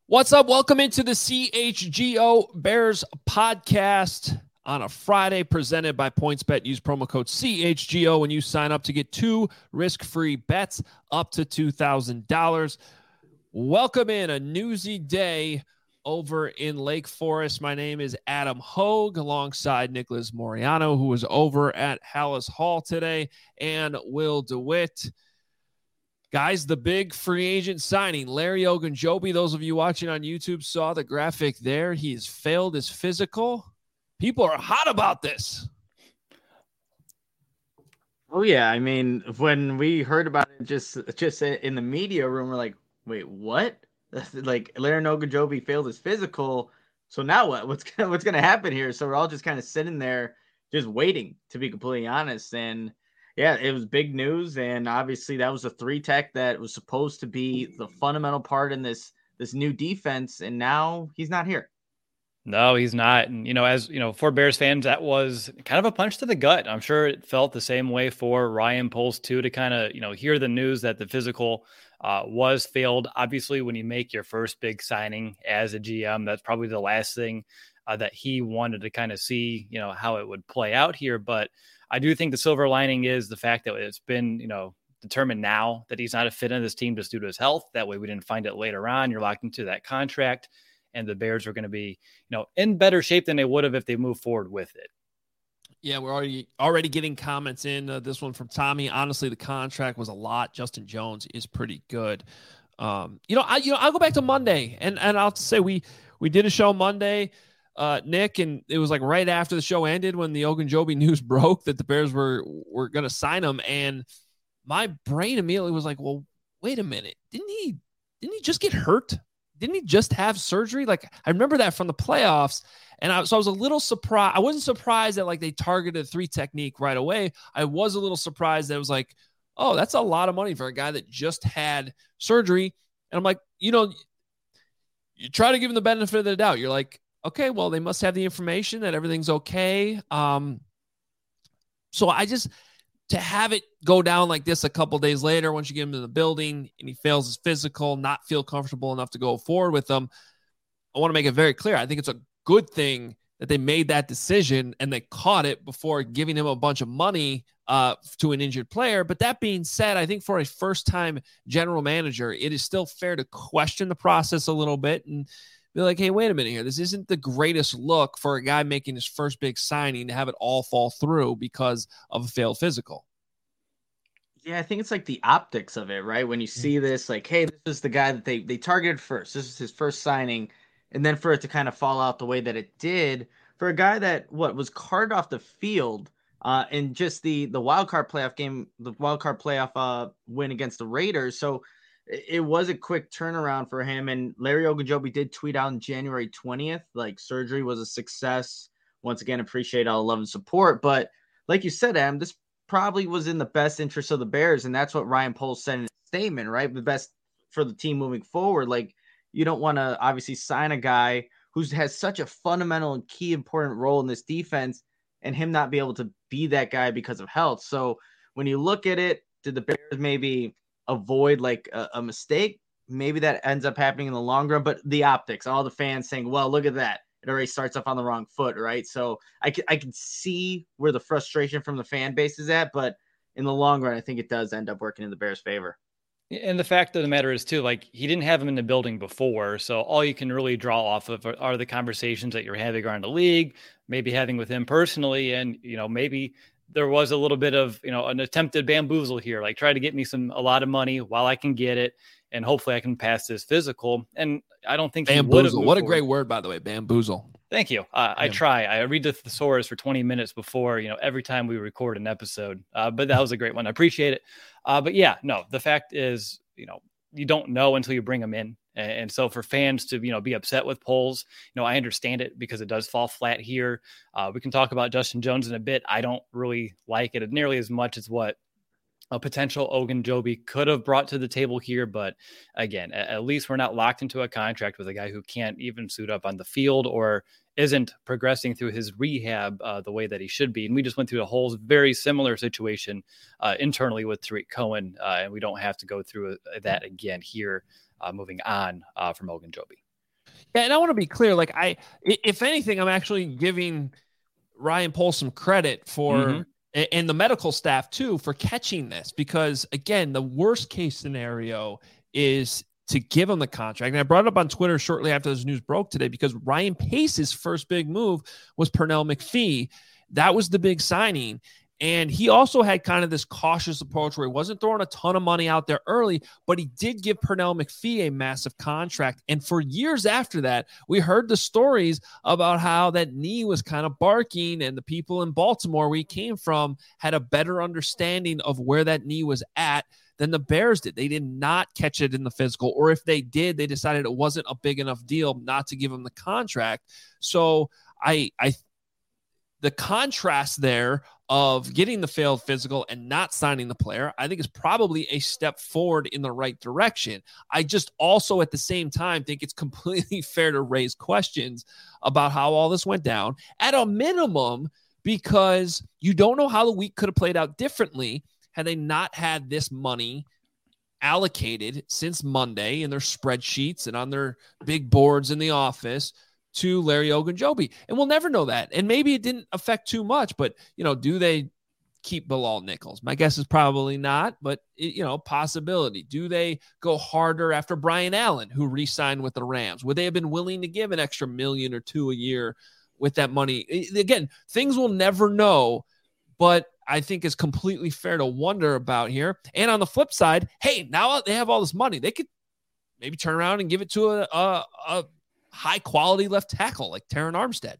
What's up? Welcome into the CHGO Bears podcast on a Friday, presented by PointsBet. Use promo code CHGO when you sign up to get 2 risk-free bets up to $2,000. Welcome in a newsy day over in Lake Forest. My name is Adam Hogue, alongside Nicholas Moriano, who was over at Hallis Hall today, and Will DeWitt. Guys, the big free agent signing, Larry Ogunjobi. Those of you watching on YouTube saw the graphic there. He has failed his physical. People are hot about this. Oh, yeah. I mean, when we heard about it just in the media room, we're like, wait, what? Like, Larry Ogunjobi failed his physical. So now what? What's gonna happen here? So we're all just kind of sitting there just waiting, to be completely honest. And yeah, it was big news, and obviously that was a 3-tech that was supposed to be the fundamental part in this new defense, and now he's not here. No, he's not. And, as for Bears fans, that was kind of a punch to the gut. I'm sure it felt the same way for Ryan Poles too, to kind of, hear the news that the physical was failed. Obviously, when you make your first big signing as a GM, that's probably the last thing that he wanted to kind of see, how it would play out here. But I do think the silver lining is the fact that it's been, determined now that he's not a fit in this team just due to his health. That way we didn't find it later on. You're locked into that contract, and the Bears are going to be, in better shape than they would have if they move forward with it. Yeah, we're already getting comments in. This one from Tommy. Honestly, the contract was a lot. Justin Jones is pretty good. I'll go back to Monday, and I'll say we did a show Monday, Nick, and it was like right after the show ended when the Ogunjobi news broke that the Bears were going to sign him, and my brain immediately was like, well, wait a minute, didn't he just get hurt? Didn't he just have surgery? Like, I remember that from the playoffs. And so I was a little surprised. I wasn't surprised that like they targeted 3 technique right away. I was a little surprised that it was like, oh, that's a lot of money for a guy that just had surgery. And I'm like, you try to give him the benefit of the doubt. You're like, okay, well, they must have the information that everything's okay. So to have it go down like this a couple days later, once you get him in the building and he fails his physical, not feel comfortable enough to go forward with them, I want to make it very clear. I think it's a good thing that they made that decision and they caught it before giving him a bunch of money to an injured player. But that being said, I think for a first-time general manager, it is still fair to question the process a little bit and be like, hey, wait a minute here. This isn't the greatest look for a guy making his first big signing to have it all fall through because of a failed physical. Yeah, I think it's like the optics of it, right? When you see this, like, hey, this is the guy that they targeted first. This is his first signing. And then for it to kind of fall out the way that it did, for a guy that, was carted off the field in just the wild card playoff game, the wild card playoff win against the Raiders. So it was a quick turnaround for him. And Larry Ogunjobi did tweet out on January 20th, like, surgery was a success. Once again, appreciate all the love and support. But like you said, Adam, this probably was in the best interest of the Bears. And that's what Ryan Poles said in his statement, right? The best for the team moving forward. Like, you don't want to obviously sign a guy who has such a fundamental and key important role in this defense and him not be able to be that guy because of health. So when you look at it, did the Bears maybe avoid like a mistake? Maybe that ends up happening in the long run, but the optics, all the fans saying, well, look at that. It already starts off on the wrong foot, right? So I can see where the frustration from the fan base is at, but in the long run, I think it does end up working in the Bears' favor. And the fact of the matter is too, like, he didn't have him in the building before. So all you can really draw off of are the conversations that you're having around the league, maybe having with him personally. And, maybe there was a little bit of, an attempted bamboozle here, like try to get me a lot of money while I can get it. And hopefully I can pass this physical. And I don't think bamboozle. What a great word, by the way, bamboozle. Thank you. I try. I read the thesaurus for 20 minutes before, every time we record an episode. But that was a great one. I appreciate it. But yeah, no, the fact is, you don't know until you bring them in. And so for fans to, be upset with Poles, I understand it because it does fall flat here. We can talk about Justin Jones in a bit. I don't really like it nearly as much as what a potential Ogunjobi could have brought to the table here. But again, at least we're not locked into a contract with a guy who can't even suit up on the field or isn't progressing through his rehab the way that he should be. And we just went through a whole very similar situation internally with Tariq Cohen, and we don't have to go through that again here moving on from Ogunjobi. Yeah, and I want to be clear. Like, if anything, I'm actually giving Ryan Poles some credit for, and the medical staff too, for catching this, because again, the worst case scenario is to give him the contract. And I brought it up on Twitter shortly after this news broke today, because Ryan Pace's first big move was Pernell McPhee. That was the big signing. And he also had kind of this cautious approach where he wasn't throwing a ton of money out there early, but he did give Pernell McPhee a massive contract. And for years after that, we heard the stories about how that knee was kind of barking, and the people in Baltimore where he came from had a better understanding of where that knee was at than the Bears did. They did not catch it in the physical, or if they did, they decided it wasn't a big enough deal not to give him the contract. So the contrast there of getting the failed physical and not signing the player, I think is probably a step forward in the right direction. I just also at the same time think it's completely fair to raise questions about how all this went down at a minimum, because you don't know how the week could have played out differently had they not had this money allocated since Monday in their spreadsheets and on their big boards in the office to Larry Ogunjobi. And we'll never know that. And maybe it didn't affect too much, but, do they keep Bilal Nichols? My guess is probably not, but, possibility. Do they go harder after Brian Allen, who re-signed with the Rams? Would they have been willing to give an extra $1 million or $2 million a year with that money? Again, things we'll never know, but I think is completely fair to wonder about here. And on the flip side, hey, now they have all this money. They could maybe turn around and give it to a high quality left tackle like Terron Armstead.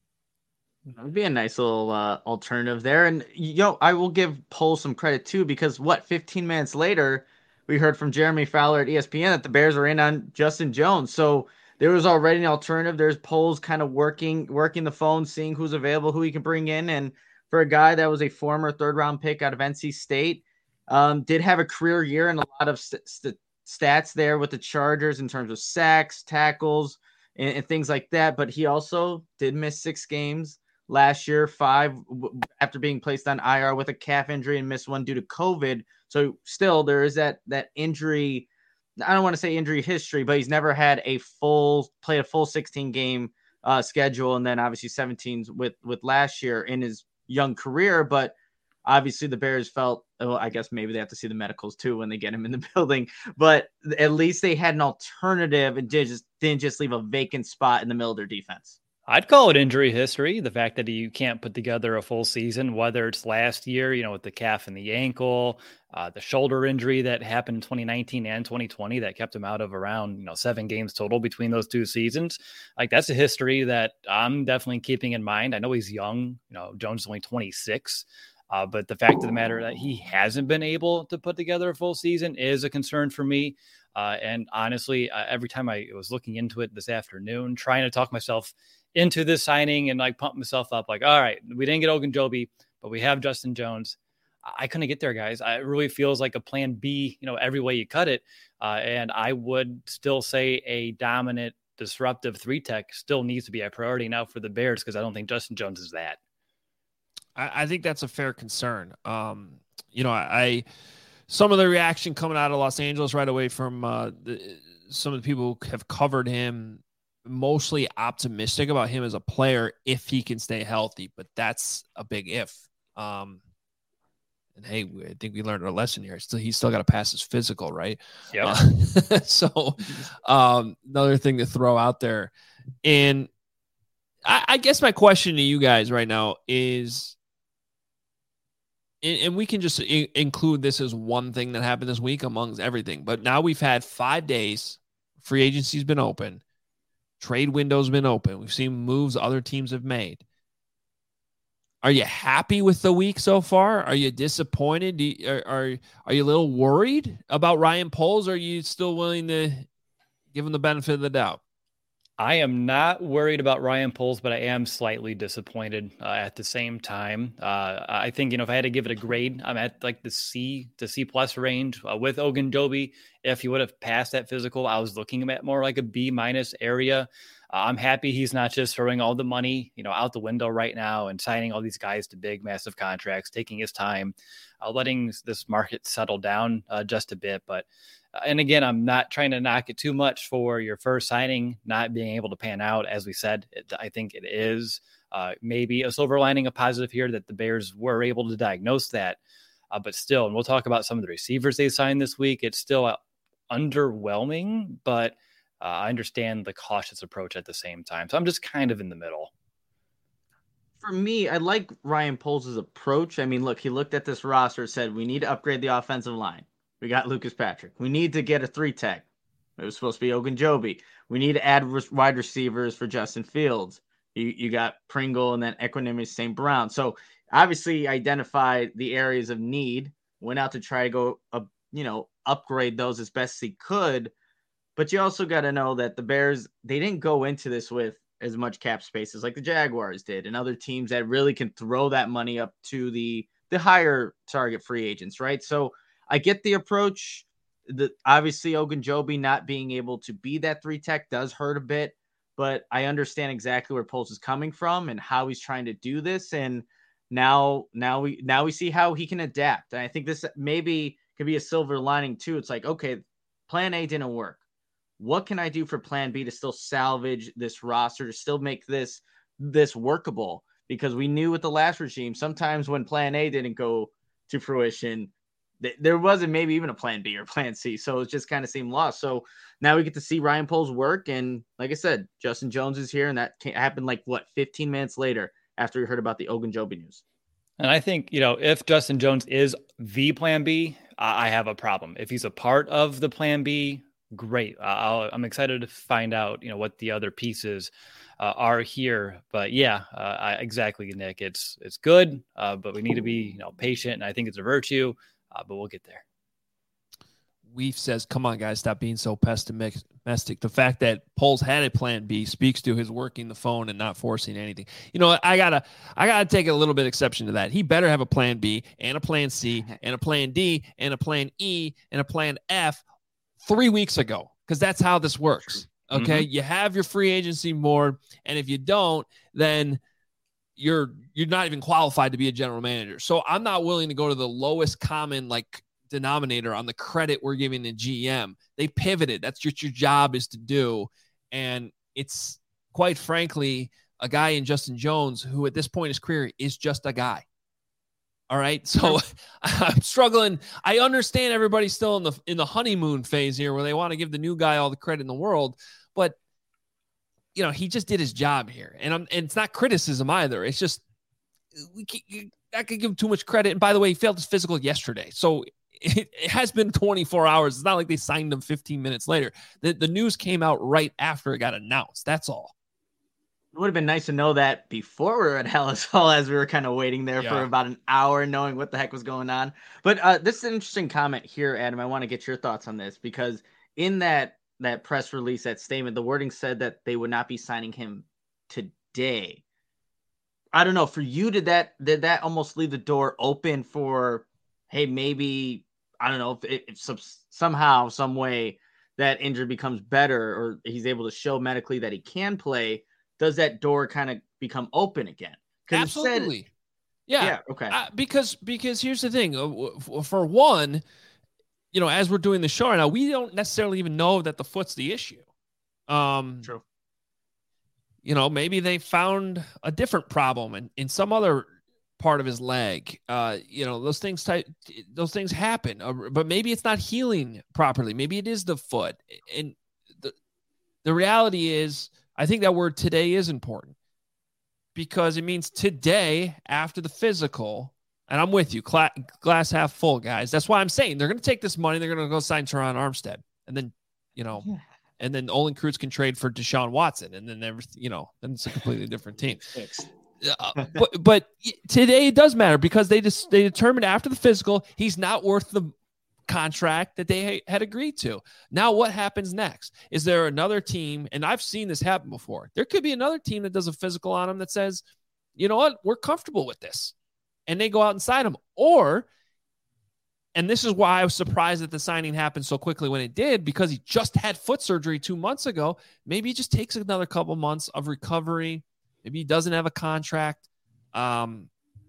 That would be a nice little alternative there. And, I will give Poles some credit too, because 15 minutes later, we heard from Jeremy Fowler at ESPN that the Bears are in on Justin Jones. So there was already an alternative. There's Poles kind of working the phone, seeing who's available, who he can bring in. And for a guy that was a former third-round pick out of NC State, did have a career year and a lot of stats there with the Chargers in terms of sacks, tackles, and things like that. But he also did miss 6 games last year, 5 after being placed on IR with a calf injury, and missed 1 due to COVID. So still there is that injury. I don't want to say injury history, but he's never had played a full 16 game schedule. And then obviously 17 with last year in his young career. But obviously the Bears felt, well, I guess maybe they have to see the medicals too when they get him in the building, but at least they had an alternative and didn't just leave a vacant spot in the middle of their defense. I'd call it injury history. The fact that you can't put together a full season, whether it's last year, with the calf and the ankle, the shoulder injury that happened in 2019 and 2020 that kept him out of around 7 games total between those 2 seasons. Like, that's a history that I'm definitely keeping in mind. I know he's young. Jones is only 26. But the fact of the matter that he hasn't been able to put together a full season is a concern for me. And honestly, every time I was looking into it this afternoon, trying to talk myself into this signing and pump myself up, all right, we didn't get Ogunjobi, but we have Justin Jones. I couldn't get there, guys. It really feels like a plan B, every way you cut it. And I would still say a dominant, disruptive 3-tech still needs to be a priority now for the Bears, because I don't think Justin Jones is that. I think that's a fair concern. Some of the reaction coming out of Los Angeles right away from some of the people who have covered him, mostly optimistic about him as a player if he can stay healthy, but that's a big if. And hey, I think we learned our lesson here. He's still got to pass his physical, right? Yeah. So another thing to throw out there. And I guess my question to you guys right now is, and we can just include this as one thing that happened this week amongst everything, but now we've had 5 days. Free agency's been open. Trade window's been open. We've seen moves other teams have made. Are you happy with the week so far? Are you disappointed? Are you a little worried about Ryan Poles? Or are you still willing to give him the benefit of the doubt? I am not worried about Ryan Poles, but I am slightly disappointed at the same time. I think, if I had to give it a grade, I'm at the C to C plus range with Ogunjobi if he would have passed that physical, I was looking at more like a B- area. I'm happy he's not just throwing all the money, out the window right now and signing all these guys to big, massive contracts, taking his time, letting this market settle down just a bit. But, and again, I'm not trying to knock it too much for your first signing not being able to pan out. As we said, I think it is maybe a silver lining, a positive here that the Bears were able to diagnose that. But still, and we'll talk about some of the receivers they signed this week. It's still underwhelming, but I understand the cautious approach at the same time. So I'm just kind of in the middle. For me, I like Ryan Poles' approach. I mean, look, he looked at this roster, said, we need to upgrade the offensive line. We got Lucas Patrick. We need to get a 3-tech. It was supposed to be Ogunjobi. We need to add wide receivers for Justin Fields. You got Pringle and then Equanimeous St. Brown. So obviously identified the areas of need, went out to try to go, upgrade those as best he could. But you also got to know that the Bears, they didn't go into this with as much cap space as like the Jaguars did and other teams that really can throw that money up to the higher target free agents, right? So I get the approach. Obviously, Ogunjobi not being able to be that 3-tech does hurt a bit, but I understand exactly where Poles is coming from and how he's trying to do this. And now we see how he can adapt. And I think this maybe could be a silver lining too. It's like, okay, plan A didn't work. What can I do for plan B to still salvage this roster, to still make this workable? Because we knew with the last regime, sometimes when plan A didn't go to fruition, there wasn't maybe even a plan B or plan C. So it just kind of seemed lost. So now we get to see Ryan Poles work. And like I said, Justin Jones is here. And that happened 15 minutes later after we heard about the Ogunjobi news. And I think, if Justin Jones is the plan B, I have a problem. If he's a part of the plan B, great. I'm excited to find out, what the other pieces are here. But yeah, exactly, Nick. It's good, but we need to be patient, and I think it's a virtue. But we'll get there. Weef says, "Come on, guys, stop being so pessimistic." The fact that Poles had a plan B speaks to his working the phone and not forcing anything. I gotta take a little bit exception to that. He better have a plan B and a plan C and a plan D and a plan E and a plan F 3 weeks ago, because that's how this works. Okay. Mm-hmm. You have your free agency board, and if you don't, then you're not even qualified to be a general manager. So I'm not willing to go to the lowest common denominator on the credit we're giving the GM. They pivoted. That's what your job is to do. And it's quite frankly a guy in Justin Jones who at this point in his career is just a guy. All right. So I'm struggling. I understand everybody's still in the honeymoon phase here where they want to give the new guy all the credit in the world, but he just did his job here. And it's not criticism either. It's just, I could give him too much credit. And by the way, he failed his physical yesterday. So it has been 24 hours. It's not like they signed him 15 minutes later. The news came out right after it got announced. That's all. It would have been nice to know that before we were at Halas Hall, as we were kind of waiting there for about an hour, knowing what the heck was going on. But this is an interesting comment here, Adam. I want to get your thoughts on this, because in that press release, that statement, the wording said that they would not be signing him today. I don't know. For you, did that almost leave the door open for, hey, maybe, I don't know, if somehow, some way that injury becomes better or he's able to show medically that he can play, does that door kind of become open again? Absolutely. Yeah. Okay. Because here's the thing. For one, as we're doing the show right now, we don't necessarily even know that the foot's the issue. True. Maybe they found a different problem in some other part of his leg. Those things happen, but maybe it's not healing properly. Maybe it is the foot. And the reality is, I think that word today is important because it means today after the physical. And I'm with you, glass half full, guys. That's why I'm saying they're going to take this money. They're going to go sign Teron Armstead, and then, and then Olin Kreutz can trade for Deshaun Watson, and then then it's a completely different team. But today it does matter because they determined after the physical he's not worth the contract that they had agreed to. Now what happens next? Is there another team? And I've seen this happen before. There could be another team that does a physical on him that says, you know what, we're comfortable with this, and they go out and sign him. Or And this is why I was surprised that the signing happened so quickly when it did, because he just had foot surgery 2 months ago. Maybe he just takes another couple months of recovery. Maybe he doesn't have a contract. And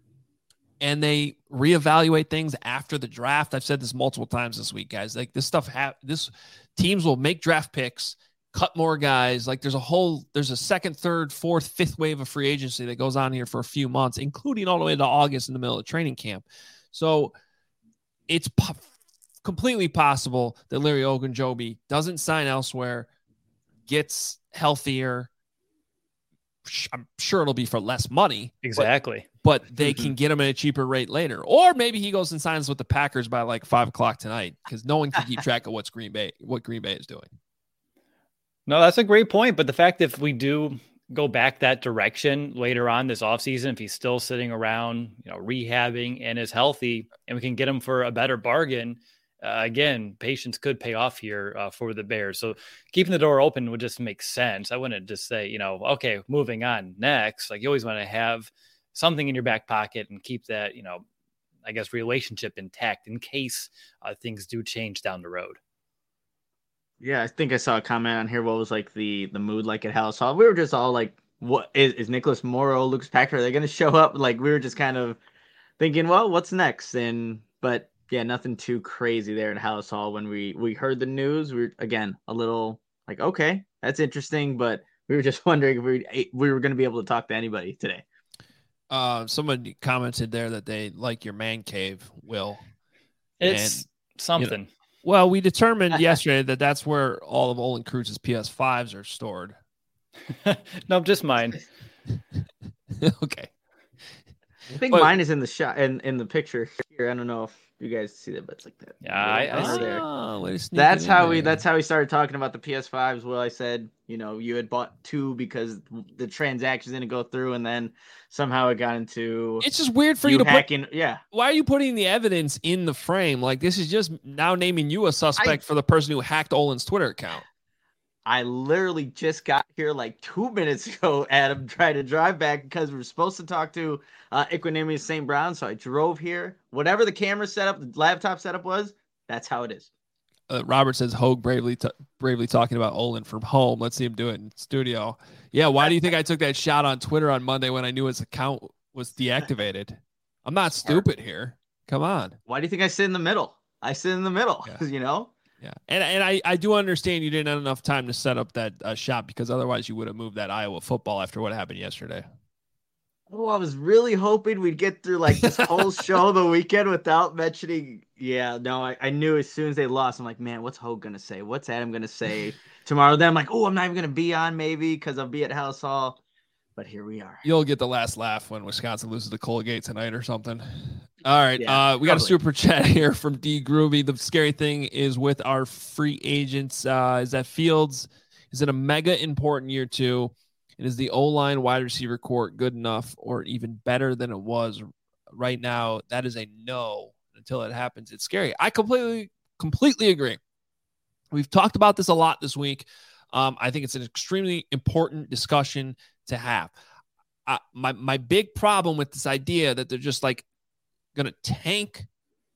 they reevaluate things after the draft. I've said this multiple times this week, guys. Like this stuff, teams will make draft picks, cut more guys. Like there's a second, third, fourth, fifth wave of free agency that goes on here for a few months, including all the way to August in the middle of training camp. So it's completely possible that Larry Ogunjobi doesn't sign elsewhere, gets healthier. I'm sure it'll be for less money. Exactly. But they can get him at a cheaper rate later. Or maybe he goes and signs with the Packers by like 5:00 tonight, because no one can keep track of what Green Bay is doing. No, that's a great point. But the fact that if we do go back that direction later on this offseason, if he's still sitting around, rehabbing and is healthy, and we can get him for a better bargain, again, patience could pay off here for the Bears. So keeping the door open would just make sense. I wouldn't just say, okay, moving on next. Like you always want to have something in your back pocket and keep that, I guess, relationship intact in case things do change down the road. Yeah, I think I saw a comment on here. What was like the mood like at Halas Hall? We were just all like, "What is Nicholas Morrow, Lucas Patrick? Are they going to show up?" Like we were just kind of thinking, "Well, what's next?" But yeah, nothing too crazy there at Halas Hall. When we heard the news, we were again a little like, "Okay, that's interesting," but we were just wondering if we were going to be able to talk to anybody today. Someone commented there that they like your man cave, Will. It's something. Well, we determined yesterday that that's where all of Olin Kruz's PS5s are stored. No, just mine. Okay. I think mine is in the shot in the picture here. I don't know if you guys see that, but it's like that. Yeah, that's how we started talking about the PS5s. Well, I said, you had bought 2 because the transactions didn't go through, and then somehow it got into. It's just weird for you to hacking. Yeah. Why are you putting the evidence in the frame? Like this is just now naming you a suspect for the person who hacked Olin's Twitter account. I literally just got here like 2 minutes ago, Adam, trying to drive back because we were supposed to talk to Equanimeous St. Brown. So I drove here. Whatever the camera setup, the laptop setup was, that's how it is. Robert says Hogue bravely talking about Olin from home. Let's see him do it in studio. Yeah, why do you think I took that shot on Twitter on Monday when I knew his account was deactivated? I'm not stupid here. Come on. Why do you think I sit in the middle? I sit in the middle, Yeah. Yeah, and I do understand you didn't have enough time to set up that shot, because otherwise you would have moved that Iowa football after what happened yesterday. Oh, I was really hoping we'd get through like this whole show the weekend without mentioning. Yeah, no, I knew as soon as they lost, I'm like, man, what's Hogue going to say? What's Adam going to say tomorrow? Then I'm like, oh, I'm not even going to be on maybe because I'll be at Halas Hall. But here we are. You'll get the last laugh when Wisconsin loses to Colgate tonight or something. All right. Yeah, we got a super chat here from D Groovy. The scary thing is with our free agents is that Fields is in a mega important year 2. And is the O-line wide receiver court good enough or even better than it was right now? That is a no. Until it happens, it's scary. I completely agree. We've talked about this a lot this week. I think it's an extremely important discussion to have. My big problem with this idea that they're just like going to tank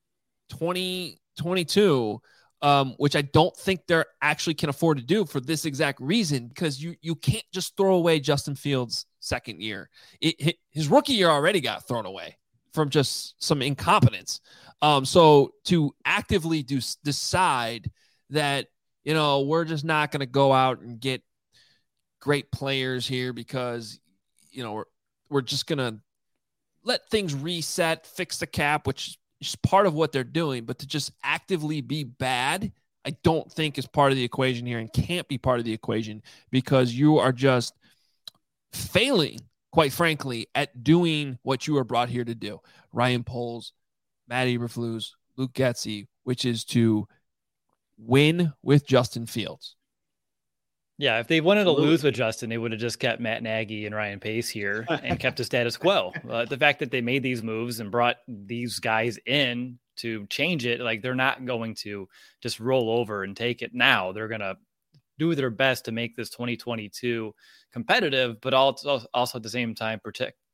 2022, which I don't think they're actually can afford to do for this exact reason, because you can't just throw away Justin Fields' second year. His rookie year already got thrown away from just some incompetence. So to actively decide that, we're just not going to go out and get great players here because, we're just going to let things reset, fix the cap, which is part of what they're doing, but to just actively be bad, I don't think is part of the equation here and can't be part of the equation, because you are just failing, quite frankly, at doing what you are brought here to do. Ryan Poles, Matt Eberflus, Luke Getsy, which is to win with Justin Fields. Yeah, if they wanted to lose with Justin, they would have just kept Matt Nagy and Ryan Pace here and kept the status quo. The fact that they made these moves and brought these guys in to change it, like they're not going to just roll over and take it now. They're going to do their best to make this 2022 competitive, but also at the same time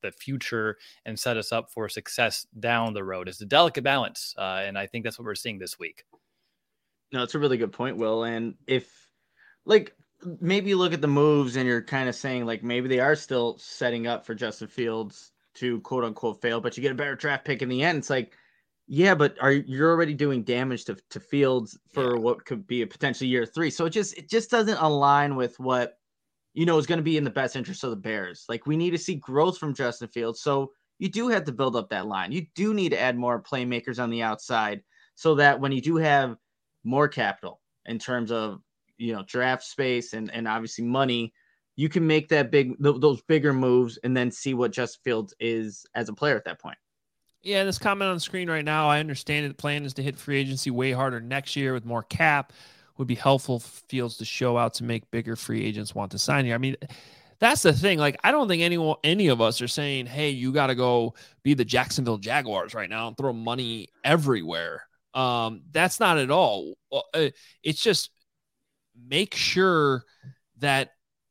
the future and set us up for success down the road. It's a delicate balance. And I think that's what we're seeing this week. No, it's a really good point, Will. And if like maybe you look at the moves and you're kind of saying like maybe they are still setting up for Justin Fields to quote unquote fail, but you get a better draft pick in the end. It's like, yeah, but you're already doing damage to Fields for what could be a potential year 3. So it just doesn't align with what is going to be in the best interest of the Bears. Like we need to see growth from Justin Fields. So you do have to build up that line. You do need to add more playmakers on the outside so that when you do have more capital in terms of, draft space and obviously money, you can make those bigger moves and then see what Justin Fields is as a player at that point. Yeah, this comment on the screen right now, I understand the plan is to hit free agency way harder next year with more cap. Would be helpful for Fields to show out to make bigger free agents want to sign here. I mean, that's the thing. Like, I don't think any of us are saying, hey, you got to go be the Jacksonville Jaguars right now and throw money everywhere. That's not at all. It's just make sure that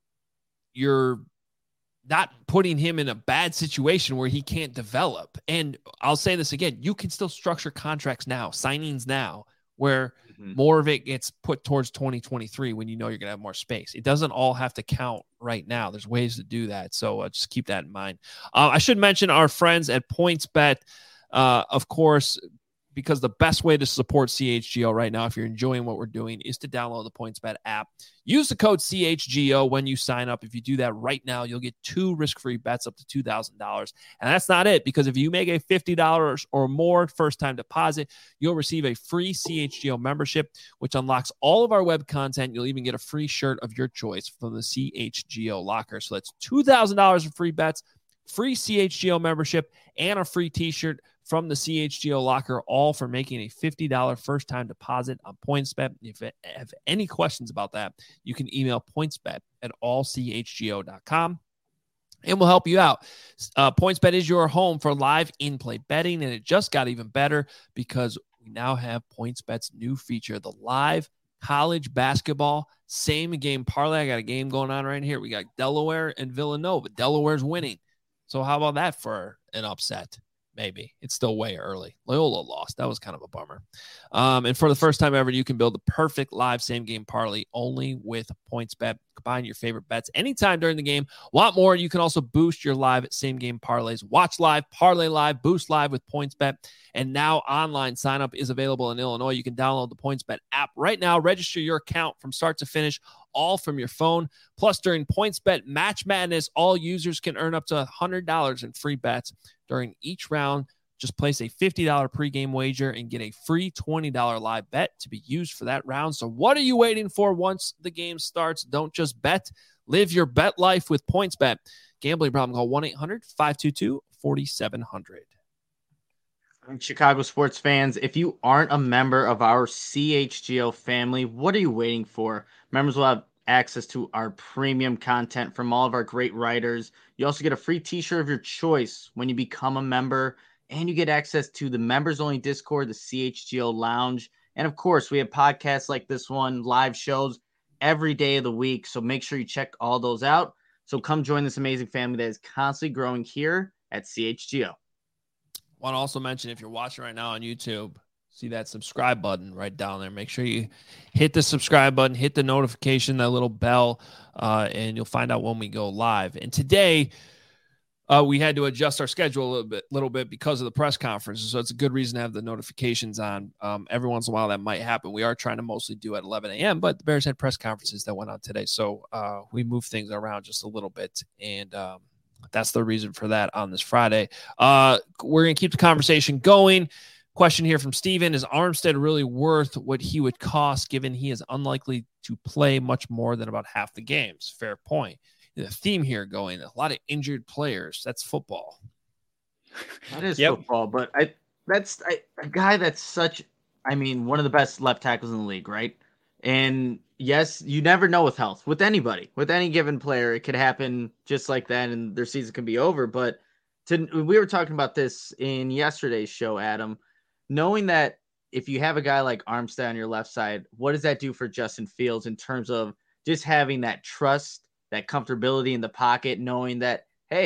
you're not putting him in a bad situation where he can't develop. And I'll say this again, you can still structure contracts now, signings now, where more of it gets put towards 2023 when you're going to have more space. It doesn't all have to count right now. There's ways to do that. So just keep that in mind. I should mention our friends at PointsBet, of course, because the best way to support CHGO right now, if you're enjoying what we're doing, is to download the PointsBet app. Use the code CHGO when you sign up. If you do that right now, you'll get 2 risk-free bets up to $2,000. And that's not it, because if you make a $50 or more first-time deposit, you'll receive a free CHGO membership, which unlocks all of our web content. You'll even get a free shirt of your choice from the CHGO locker. So that's $2,000 in free bets, free CHGO membership, and a free t-shirt from the CHGO locker, all for making a $50 first-time deposit on PointsBet. If you have any questions about that, you can email pointsbet@allchgo.com, and we'll help you out. PointsBet is your home for live in-play betting, and it just got even better because we now have PointsBet's new feature, the live college basketball same-game parlay. I got a game going on right here. We got Delaware and Villanova. Delaware's winning. So how about that for an upset? Maybe. It's still way early. Loyola lost. That was kind of a bummer. And for the first time ever, you can build the perfect live same-game parlay only with PointsBet. Combine your favorite bets anytime during the game. Want more? You can also boost your live same-game parlays. Watch live, parlay live, boost live with PointsBet. And now online sign-up is available in Illinois. You can download the PointsBet app right now. Register your account from start to finish, all from your phone. Plus, during PointsBet Match Madness, all users can earn up to $100 in free bets during each round. Just place a $50 pregame wager and get a free $20 live bet to be used for that round. So what are you waiting for once the game starts? Don't just bet. Live your bet life with PointsBet. Gambling problem, call 1-800-522-4700. Chicago sports fans, if you aren't a member of our CHGO family, what are you waiting for? Members will have access to our premium content from all of our great writers. You also get a free t-shirt of your choice when you become a member, and you get access to the members-only Discord, the CHGO Lounge. And of course, we have podcasts like this one, live shows every day of the week. So make sure you check all those out. So come join this amazing family that is constantly growing here at CHGO. Want to also mention, if you're watching right now on YouTube, see that subscribe button right down there. Make sure you hit the subscribe button, hit the notification, that little bell, and you'll find out when we go live. And today, we had to adjust our schedule a little bit because of the press conferences. So it's a good reason to have the notifications on. Every once in a while that might happen. We are trying to mostly do at 11 a.m., but the Bears had press conferences that went on today. So we moved things around just a little bit, and that's the reason for that on this Friday. We're going to keep the conversation going. Question here from Steven. Is Armstead really worth what he would cost, given he is unlikely to play much more than about half the games? Fair point. The theme here going, a lot of injured players. That's football. That is football, but that's a guy that's such, one of the best left tackles in the league, right? And yes, you never know with health, with anybody, with any given player. It could happen just like that, and their season can be over. But we were talking about this in yesterday's show, Adam, knowing that if you have a guy like Armstead on your left side, what does that do for Justin Fields in terms of just having that trust, that comfortability in the pocket, knowing that, hey,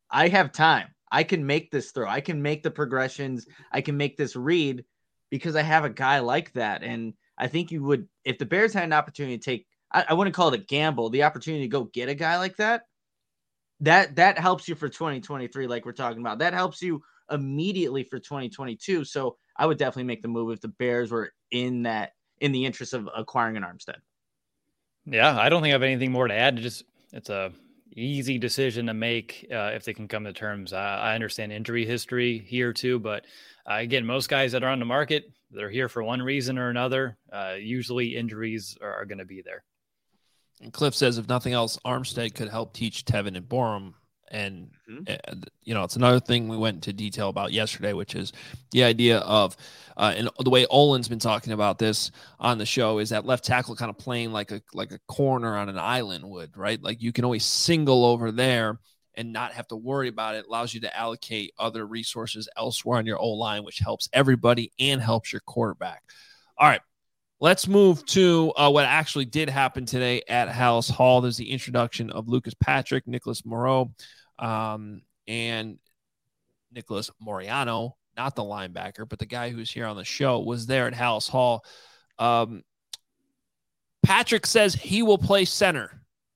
I have time. I can make this throw. I can make the progressions. I can make this read because I have a guy like that. And I think you would, if the Bears had an opportunity to take, I wouldn't call it a gamble, the opportunity to go get a guy like that, that helps you for 2023, like we're talking about. That helps you immediately for 2022. So I would definitely make the move if the Bears were in the interest of acquiring an Armstead. Yeah, I don't think I have anything more to add. It's a easy decision to make if they can come to terms. I understand injury history here too, but again, most guys that are on the market, they're here for one reason or another. Usually injuries are going to be there. And Cliff says, if nothing else, Armstead could help teach Tevin and Borum. And, it's another thing we went into detail about yesterday, which is the idea of, and the way Olin's been talking about this on the show, is that left tackle kind of playing like a corner on an island would, right? Like you can always single over there and not have to worry about it. It allows you to allocate other resources elsewhere on your O-line, which helps everybody and helps your quarterback. All right. Let's move to what actually did happen today at Halas Hall. There's the introduction of Lucas Patrick, Nicholas Moreau, and Nicholas Moriano, not the linebacker, but the guy who's here on the show, was there at Halas Hall. Patrick says he will play center.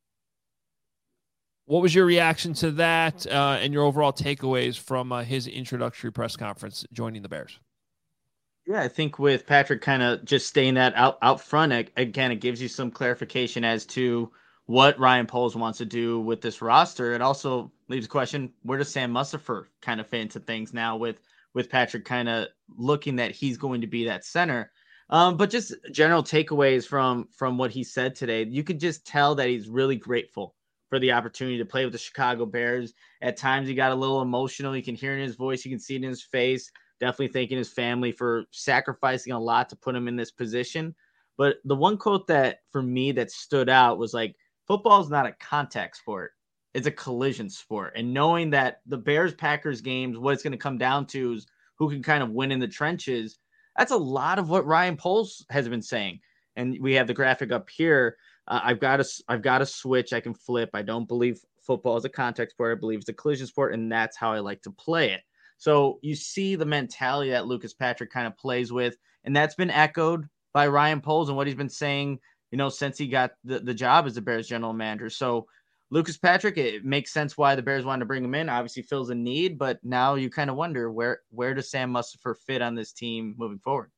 What was your reaction to that and your overall takeaways from his introductory press conference joining the Bears? Yeah, I think with Patrick kind of just staying that out front, again, it gives you some clarification as to what Ryan Poles wants to do with this roster. It also leaves a question, where does Sam Mustipher kind of fit into things now with Patrick kind of looking that he's going to be that center? But just general takeaways from what he said today, you could just tell that he's really grateful for the opportunity to play with the Chicago Bears. At times he got a little emotional. You can hear it in his voice. You can see it in his face. Definitely thanking his family for sacrificing a lot to put him in this position. But the one quote that for me that stood out was like, football is not a contact sport. It's a collision sport. And knowing that the Bears-Packers games, what it's going to come down to is who can kind of win in the trenches. That's a lot of what Ryan Poles has been saying. And we have the graphic up here. I've got a switch I can flip. I don't believe football is a contact sport. I believe it's a collision sport, and that's how I like to play it. So you see the mentality that Lucas Patrick kind of plays with, and that's been echoed by Ryan Poles and what he's been saying, since he got the job as the Bears general manager. So Lucas Patrick, it makes sense why the Bears wanted to bring him in. Obviously fills a need, but now you kind of wonder where does Sam Mustipher fit on this team moving forward?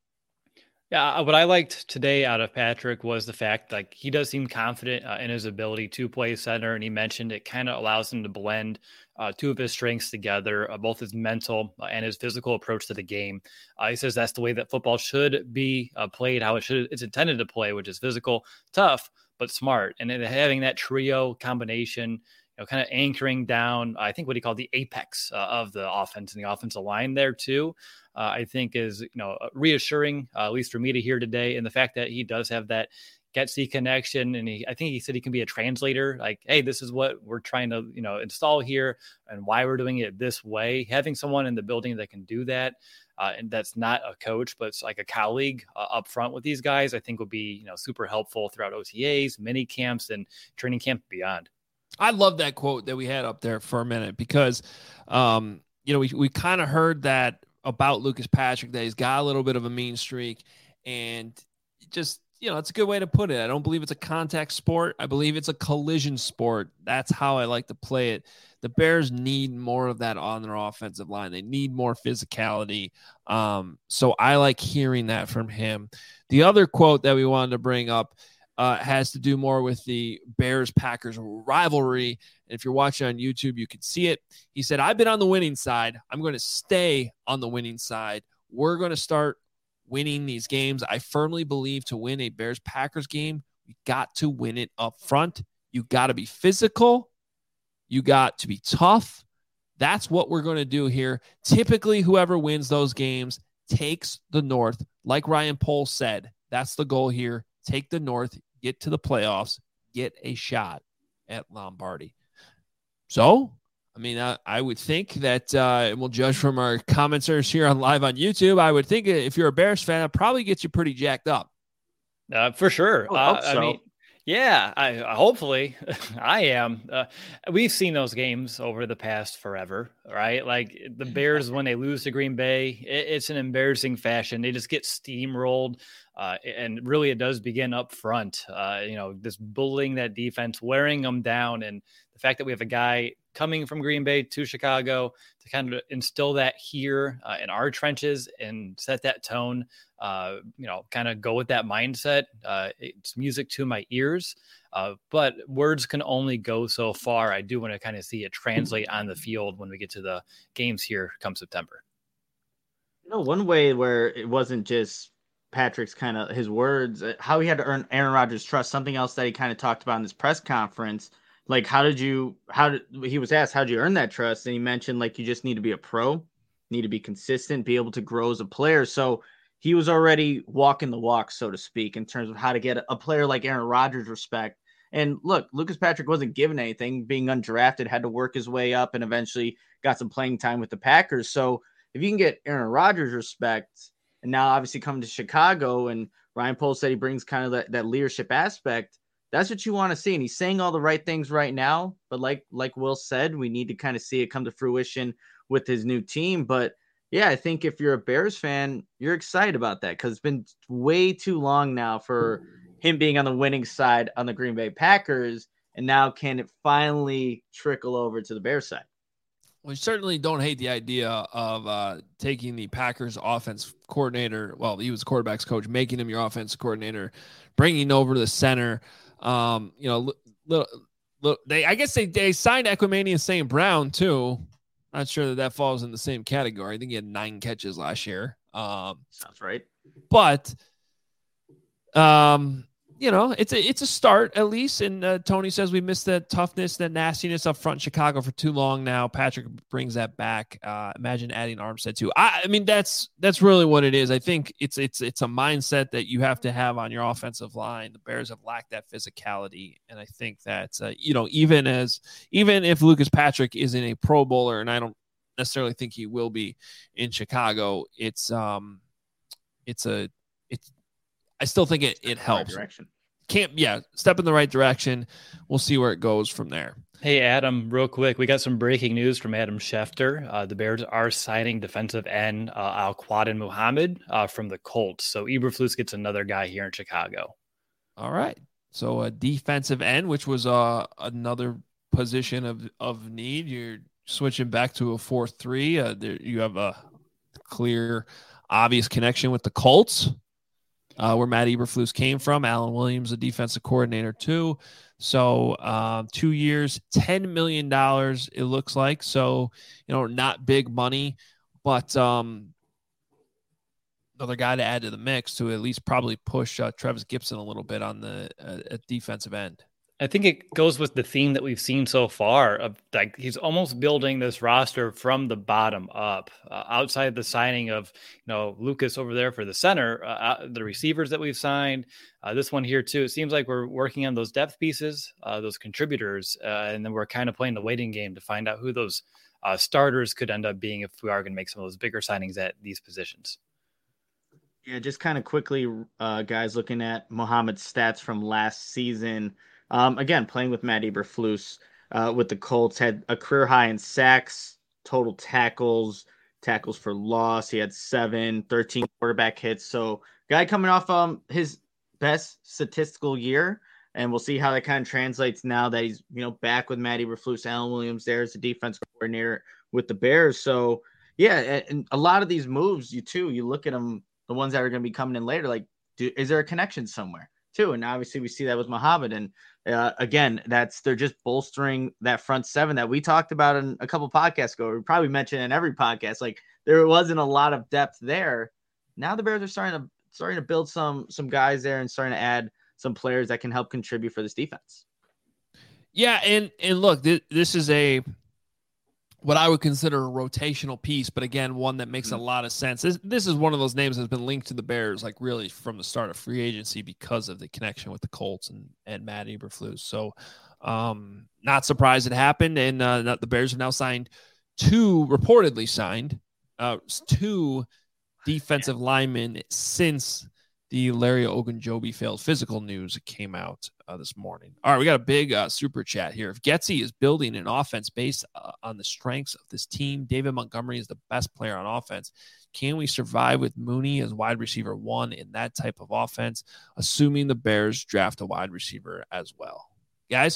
Yeah, what I liked today out of Patrick was the fact like he does seem confident in his ability to play center, and he mentioned it kind of allows him to blend two of his strengths together, both his mental and his physical approach to the game. He says that's the way that football should be played, how it's intended to play, which is physical, tough, but smart. And then having that trio combination, kind of anchoring down, I think what he called the apex of the offense and the offensive line there too, I think is, reassuring, at least for me to hear today. And the fact that he does have that Getsy connection. And I think he said he can be a translator. Like, hey, this is what we're trying to, install here and why we're doing it this way. Having someone in the building that can do that, and that's not a coach, but it's like a colleague up front with these guys, I think would be, super helpful throughout OTAs, mini camps, and training camp beyond. I love that quote that we had up there for a minute because, we kind of heard that about Lucas Patrick, that he's got a little bit of a mean streak, and just, it's a good way to put it. I don't believe it's a contact sport. I believe it's a collision sport. That's how I like to play it. The Bears need more of that on their offensive line. They need more physicality. So I like hearing that from him. The other quote that we wanted to bring up has to do more with the Bears-Packers rivalry. And if you're watching on YouTube, you can see it. He said, I've been on the winning side. I'm going to stay on the winning side. We're going to start winning these games. I firmly believe to win a Bears-Packers game, we got to win it up front. You got to be physical. You got to be tough. That's what we're going to do here. Typically, whoever wins those games takes the North. Like Ryan Poles said, that's the goal here. Take the North, get to the playoffs, get a shot at Lombardi. So, I would think that, and we'll judge from our commenters here on live on YouTube, I would think if you're a Bears fan, it probably gets you pretty jacked up. For sure. I hope so. Yeah, I hopefully I am. We've seen those games over the past forever, right? Like the Bears, when they lose to Green Bay, it's an embarrassing fashion. They just get steamrolled. And really, it does begin up front. This bullying that defense, wearing them down. And the fact that we have a guy coming from Green Bay to Chicago to kind of instill that here in our trenches and set that tone, kind of go with that mindset. It's music to my ears, but words can only go so far. I do want to kind of see it translate on the field when we get to the games here come September. One way where it wasn't just Patrick's kind of his words, how he had to earn Aaron Rodgers' trust, something else that he kind of talked about in this press conference. Like, he was asked, how'd you earn that trust? And he mentioned, like, you just need to be a pro, need to be consistent, be able to grow as a player. So he was already walking the walk, so to speak, in terms of how to get a player like Aaron Rodgers respect. And look, Lucas Patrick wasn't given anything, being undrafted, had to work his way up and eventually got some playing time with the Packers. So if you can get Aaron Rodgers respect, and now obviously coming to Chicago, and Ryan Poles said he brings kind of that leadership aspect, that's what you want to see. And he's saying all the right things right now. But like Will said, we need to kind of see it come to fruition with his new team. But yeah, I think if you're a Bears fan, you're excited about that because it's been way too long now for him being on the winning side on the Green Bay Packers. And now can it finally trickle over to the Bears side? We certainly don't hate the idea of taking the Packers offense coordinator. Well, he was quarterback's coach, making him your offense coordinator, bringing over the center. I guess they signed Equanimeous St. Brown too. Not sure that falls in the same category. I think he had 9 catches last year. Sounds right. But, it's a start at least. And Tony says we missed that toughness, that nastiness up front in Chicago for too long now. Patrick brings that back. Imagine adding Armstead too. I mean, that's really what it is. I think it's a mindset that you have to have on your offensive line. The Bears have lacked that physicality. And I think that, even if Lucas Patrick isn't a Pro Bowler, and I don't necessarily think he will be in Chicago, I still think it helps. Step in the right direction. We'll see where it goes from there. Hey, Adam, real quick, we got some breaking news from Adam Schefter. The Bears are signing defensive end Al-Quadin Muhammad from the Colts. So Eberflus gets another guy here in Chicago. All right. So a defensive end, which was another position of need. You're switching back to a 4-3. You have a clear, obvious connection with the Colts. Where Matt Eberflus came from. Alan Williams, a defensive coordinator too. So 2 years, $10 million, it looks like. So, not big money, but another guy to add to the mix to at least probably push Travis Gibson a little bit on the defensive end. I think it goes with the theme that we've seen so far of like he's almost building this roster from the bottom up. Outside the signing of Lucas over there for the center, the receivers that we've signed, this one here too. It seems like we're working on those depth pieces, those contributors, and then we're kind of playing the waiting game to find out who those starters could end up being if we are going to make some of those bigger signings at these positions. Yeah, just kind of quickly, guys, looking at Muhammad's stats from last season. Again, playing with Matt Eberflus with the Colts, had a career high in sacks, total tackles for loss. He had 7, 13 quarterback hits. So guy coming off his best statistical year, and we'll see how that kind of translates now that he's back with Matt Eberflus. Alan Williams there as the defense coordinator with the Bears. So yeah, and a lot of these moves, you look at them, the ones that are going to be coming in later, like is there a connection somewhere too? And obviously we see that with Muhammad. And again, they're just bolstering that front seven that we talked about in a couple podcasts ago. We probably mentioned in every podcast, like there wasn't a lot of depth there. Now the Bears are starting to build some guys there and starting to add some players that can help contribute for this defense. Yeah. And look, this is what I would consider a rotational piece, but again, one that makes a lot of sense. This is one of those names that's been linked to the Bears, like really from the start of free agency because of the connection with the Colts and Matt Eberflus. So not surprised it happened. And the Bears have now reportedly signed 2 defensive linemen since the Larry Ogunjobi failed physical news that came out this morning. All right, we got a big super chat here. If Getsy is building an offense based on the strengths of this team, David Montgomery is the best player on offense. Can we survive with Mooney as wide receiver 1 in that type of offense, assuming the Bears draft a wide receiver as well? Guys?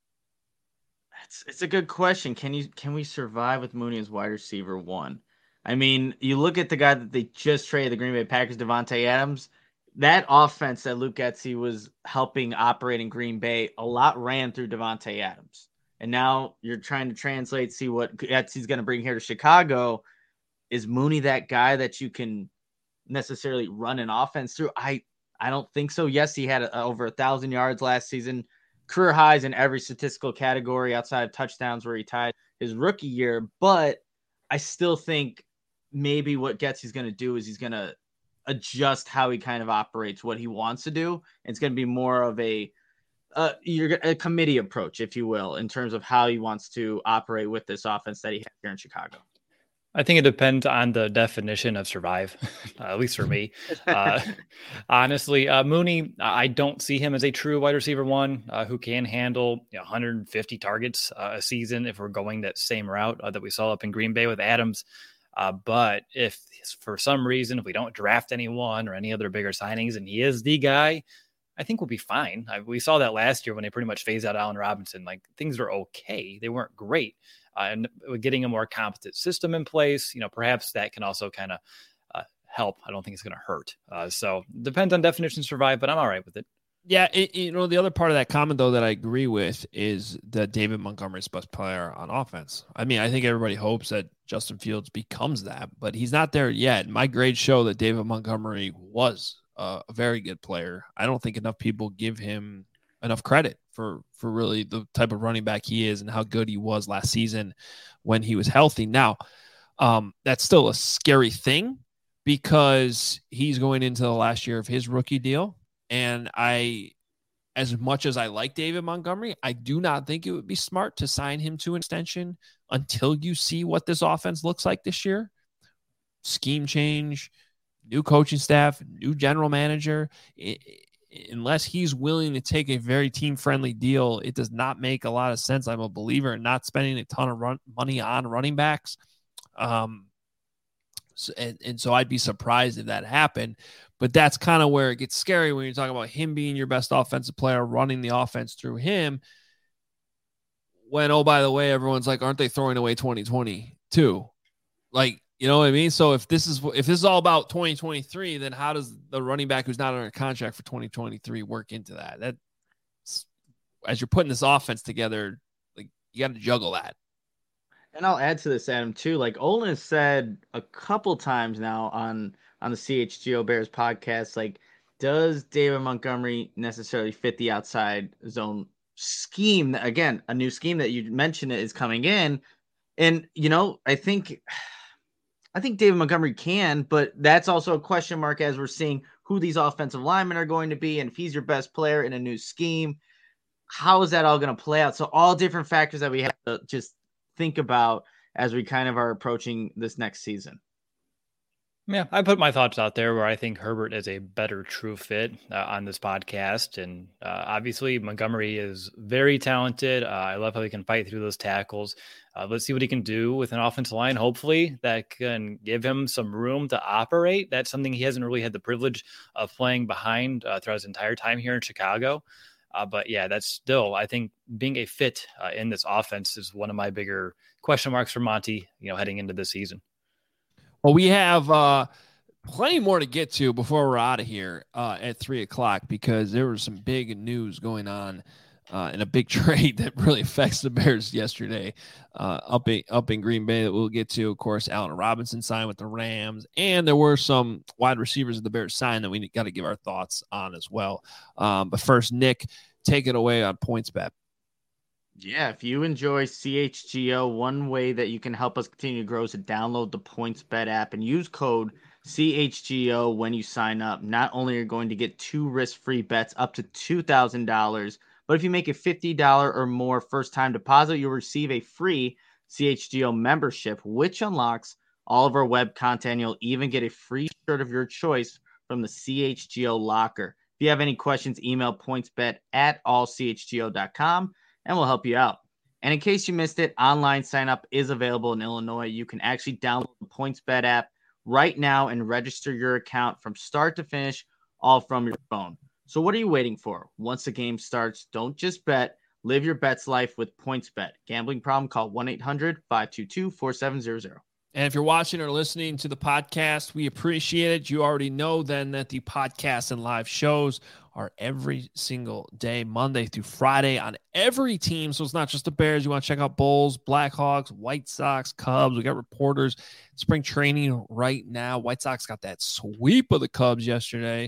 It's a good question. Can we survive with Mooney as wide receiver 1? I mean, you look at the guy that they just traded, the Green Bay Packers, Davante Adams. That offense that Luke Getsy was helping operate in Green Bay, a lot ran through Davante Adams. And now you're trying to translate, see what Getsy's going to bring here to Chicago. Is Mooney that guy that you can necessarily run an offense through? I don't think so. Yes, he had over 1,000 yards last season, career highs in every statistical category outside of touchdowns where he tied his rookie year. But I still think maybe what Getsy's going to do is he's going to adjust how he kind of operates, what he wants to do. And it's going to be more of a committee approach, if you will, in terms of how he wants to operate with this offense that he has here in Chicago. I think it depends on the definition of survive, at least for me. Honestly, Mooney, I don't see him as a true wide receiver 1 who can handle 150 targets a season if we're going that same route that we saw up in Green Bay with Adams. But if for some reason, if we don't draft anyone or any other bigger signings and he is the guy, I think we'll be fine. We saw that last year when they pretty much phased out Allen Robinson. Like, things were okay. They weren't great. And getting a more competent system in place, perhaps that can also kind of help. I don't think it's going to hurt. So depends on definition of survive, but I'm all right with it. Yeah, the other part of that comment, though, that I agree with is that David Montgomery is the best player on offense. I mean, I think everybody hopes that Justin Fields becomes that, but he's not there yet. My grades show that David Montgomery was a very good player. I don't think enough people give him enough credit for really the type of running back he is and how good he was last season when he was healthy. Now, that's still a scary thing because he's going into the last year of his rookie deal. And as much as I like David Montgomery, I do not think it would be smart to sign him to an extension until you see what this offense looks like this year. Scheme change, new coaching staff, new general manager. Unless he's willing to take a very team-friendly deal, it does not make a lot of sense. I'm a believer in not spending a ton of money on running backs. So I'd be surprised if that happened. But that's kind of where it gets scary when you're talking about him being your best offensive player, running the offense through him. When, oh, by the way, everyone's like, aren't they throwing away 2020 too? Like, you know what I mean? So if this is all about 2023, then how does the running back who's not under contract for 2023 work into that? That, as you're putting this offense together, like, you got to juggle that. And I'll add to this, Adam, too. Like, Olin has said a couple times now on the CHGO Bears podcast, like, does David Montgomery necessarily fit the outside zone scheme? Again, a new scheme that you mentioned is coming in. And, I think David Montgomery can, but that's also a question mark as we're seeing who these offensive linemen are going to be. And if he's your best player in a new scheme, how is that all going to play out? So all different factors that we have to just think about as we kind of are approaching this next season. Yeah, I put my thoughts out there where I think Herbert is a better true fit on this podcast. And obviously Montgomery is very talented. I love how he can fight through those tackles. Let's see what he can do with an offensive line. Hopefully that can give him some room to operate. That's something he hasn't really had the privilege of playing behind throughout his entire time here in Chicago. But yeah, that's still, I think, being a fit in this offense is one of my bigger question marks for Monty, heading into this season. Well, we have plenty more to get to before we're out of here at 3:00 because there was some big news going on in a big trade that really affects the Bears yesterday up in Green Bay that we'll get to. Of course, Allen Robinson signed with the Rams, and there were some wide receivers that the Bears signed that we got to give our thoughts on as well. But first, Nick, take it away on PointsBet. Yeah, if you enjoy CHGO, one way that you can help us continue to grow is to download the PointsBet app and use code CHGO when you sign up. Not only are you going to get 2 risk-free bets up to $2,000, but if you make a $50 or more first-time deposit, you'll receive a free CHGO membership, which unlocks all of our web content. You'll even get a free shirt of your choice from the CHGO locker. If you have any questions, email pointsbet@allchgo.com and we'll help you out. And in case you missed it, online sign up is available in Illinois. You can actually download the PointsBet app right now and register your account from start to finish, all from your phone. So what are you waiting for? Once the game starts, don't just bet. Live your bets life with PointsBet. Gambling problem? Call 1-800-522-4700. And if you're watching or listening to the podcast, we appreciate it. You already know then that the podcast and live shows are every single day, Monday through Friday on every team. So it's not just the Bears. You want to check out Bulls, Blackhawks, White Sox, Cubs. We got reporters, spring training right now. White Sox got that sweep of the Cubs yesterday.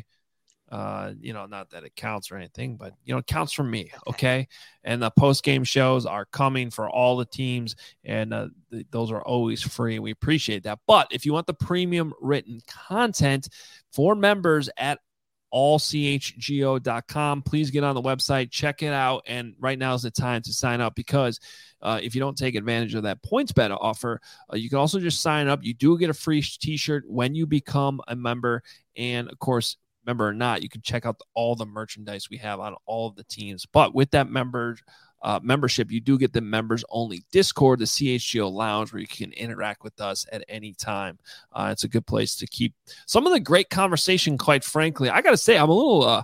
Not that it counts or anything, but it counts for me. Okay. And the post-game shows are coming for all the teams, and those are always free. We appreciate that. But if you want the premium written content for members at allchgo.com, please get on the website, check it out. And right now is the time to sign up, because if you don't take advantage of that PointsBet offer, you can also just sign up. You do get a free t-shirt when you become a member. And of course, member or not, you can check out all the merchandise we have on all of the teams. But with that membership, you do get the members only Discord, the CHGO Lounge, where you can interact with us at any time. It's a good place to keep some of the great conversation. Quite frankly, I got to say, I'm a little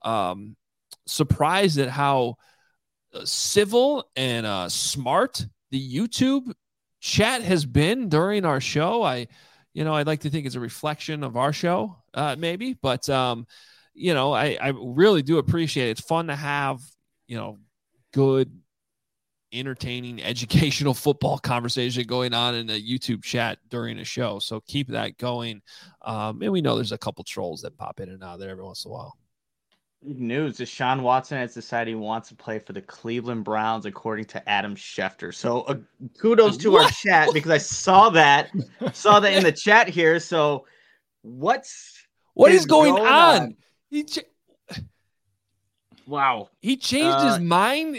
surprised at how civil and smart the YouTube chat has been during our show. I'd like to think it's a reflection of our show, maybe, but I really do appreciate it. It's fun to have, good, entertaining, educational football conversation going on in a YouTube chat during a show. So keep that going. And we know there's a couple trolls that pop in and out there every once in a while. Big news. Deshaun Watson has decided he wants to play for the Cleveland Browns, according to Adam Schefter. So kudos to our chat, because I saw that in the chat here. So what is going on? Wow. He changed his mind.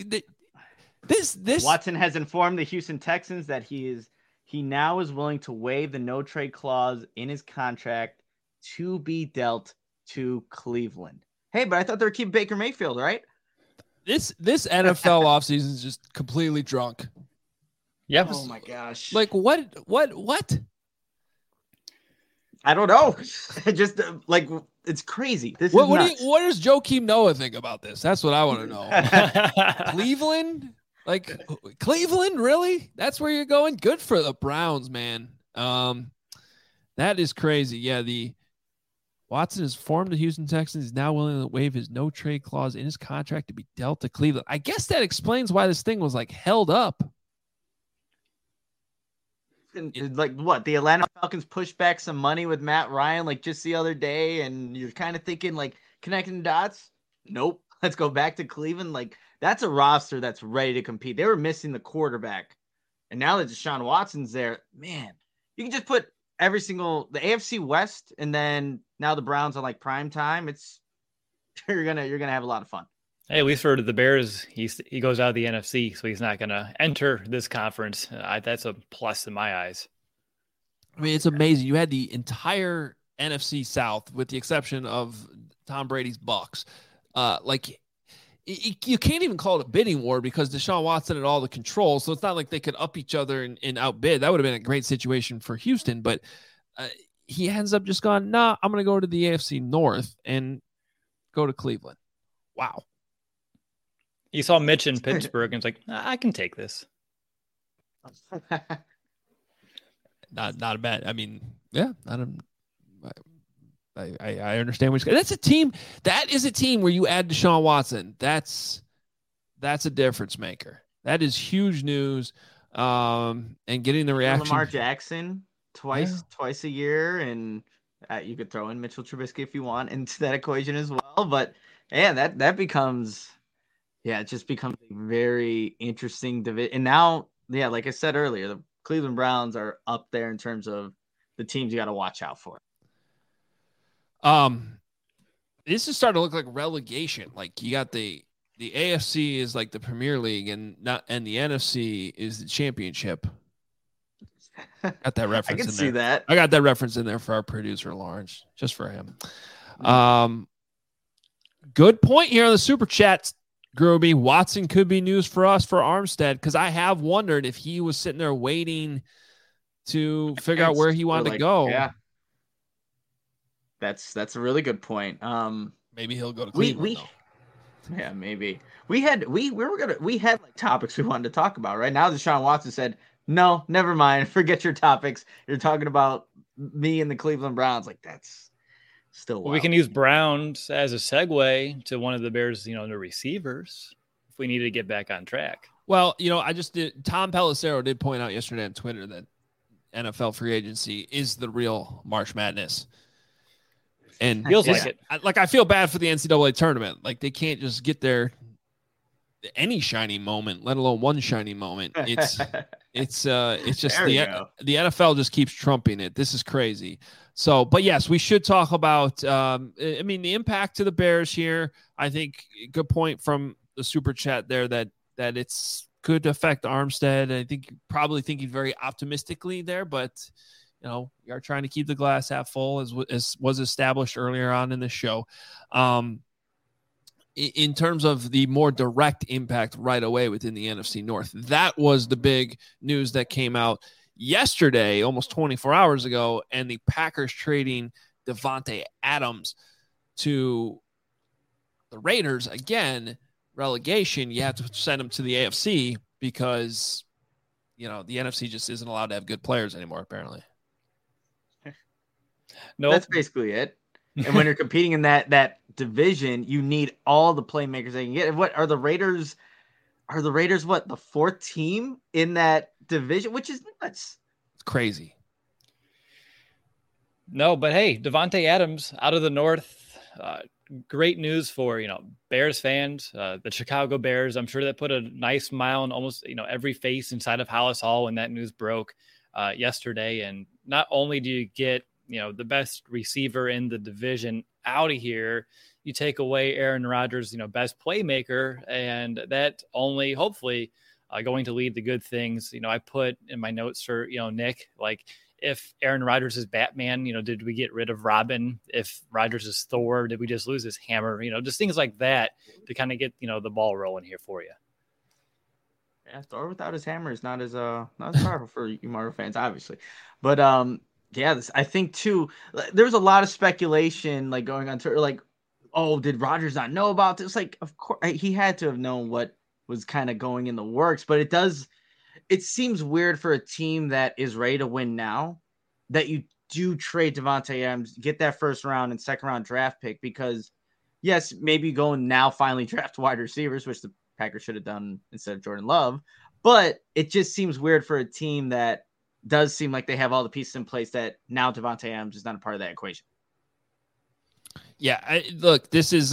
This Watson has informed the Houston Texans that he now is willing to waive the no trade clause in his contract to be dealt to Cleveland. Hey, but I thought they were keeping Baker Mayfield, right? This NFL offseason is just completely drunk. Yep. Oh my gosh. Like what? I don't know. Just it's crazy. What does Joakim Noah think about this? That's what I want to know. Cleveland? Like Cleveland, really? That's where you're going? Good for the Browns, man. That is crazy. Yeah, Watson has formed the Houston Texans. He's now willing to waive his no trade clause in his contract to be dealt to Cleveland. I guess that explains why this thing was held up. Like what? The Atlanta Falcons pushed back some money with Matt Ryan just the other day, and you're kind of thinking connecting dots. Nope. Let's go back to Cleveland. That's a roster that's ready to compete. They were missing the quarterback, and now that Deshaun Watson's there, man, you can just put the AFC West, and then now the Browns on prime time. You're gonna have a lot of fun. Hey, at least for the Bears, he goes out of the NFC, so he's not going to enter this conference. That's a plus in my eyes. I mean, it's amazing. You had the entire NFC South, with the exception of Tom Brady's Bucks. You can't even call it a bidding war, because Deshaun Watson had all the control, so it's not like they could up each other and outbid. That would have been a great situation for Houston, but he ends up just going, nah, I'm going to go to the AFC North and go to Cleveland. Wow. You saw Mitch in Pittsburgh, and it's like, I can take this. Not a bad. I mean, yeah, I understand what you're saying. That's a team. That is a team where you add Deshaun Watson. That's a difference maker. That is huge news. And getting the reaction. Lamar Jackson twice a year, and you could throw in Mitchell Trubisky if you want into that equation as well. But man, that becomes. Yeah, it just becomes a very interesting division. And now, yeah, like I said earlier, the Cleveland Browns are up there in terms of the teams you got to watch out for. This is starting to look like relegation. You got the AFC is the Premier League, and the NFC is the championship. Got that reference. I can in see there. that. I got that reference in there for our producer Lawrence, just for him. Good point here on the super chat, Groby. Watson could be news for us for Armstead, because I have wondered if he was sitting there waiting to figure out where he wanted to go. Yeah, that's a really good point. Maybe he'll go to Cleveland. Yeah, maybe we had like topics we wanted to talk about. Right now, Deshaun Watson said, "No, never mind. Forget your topics. You're talking about me and the Cleveland Browns." Like, that's still wild. Well, we can use Browns as a segue to one of the Bears, the receivers, if we need to get back on track. Well, I just did. Tom Pelissero did point out yesterday on Twitter that NFL free agency is the real March Madness. And feels like it. I feel bad for the NCAA tournament. Like, they can't just get there any shiny moment, let alone one shiny moment. It's just the NFL just keeps trumping it. This is crazy. So, but yes, we should talk about, the impact to the Bears here. I think good point from the super chat there that it's could affect Armstead. I think you're probably thinking very optimistically there, but you are trying to keep the glass half full, as was established earlier on in the show. In terms of the more direct impact right away within the NFC North, that was the big news that came out yesterday, almost 24 hours ago, and the Packers trading Davante Adams to the Raiders. Again, relegation, you have to send him to the AFC because, the NFC just isn't allowed to have good players anymore, apparently. No, that's basically it. And when you're competing in that division, you need all the playmakers they can get. And what are the Raiders? Are the Raiders what, the fourth team in that division, which is nuts? It's crazy. No, but hey, Davante Adams out of the North. Great news for Bears fans, the Chicago Bears. I'm sure that put a nice smile on almost every face inside of Hallis Hall when that news broke yesterday. And not only do you get the best receiver in the division out of here, you take away Aaron Rodgers, best playmaker, and that only hopefully going to lead to good things. I put in my notes for, Nick, like, if Aaron Rodgers is Batman, did we get rid of Robin? If Rodgers is Thor, did we just lose his hammer? Just things like that to kind of get, the ball rolling here for you. Yeah, Thor without his hammer is not as powerful for you Marvel fans, obviously. But yeah, I think too, there's a lot of speculation like going on Twitter, like, oh, did Rodgers not know about this? Like, of course he had to have known what was kind of going in the works, but it seems weird for a team that is ready to win now that you do trade Davante Adams, get that first round and second round draft pick, because yes, maybe go and now finally draft wide receivers, which the Packers should have done instead of Jordan Love. But it just seems weird for a team that does seem like they have all the pieces in place that now Davante Adams is not a part of that equation. Yeah, look, this is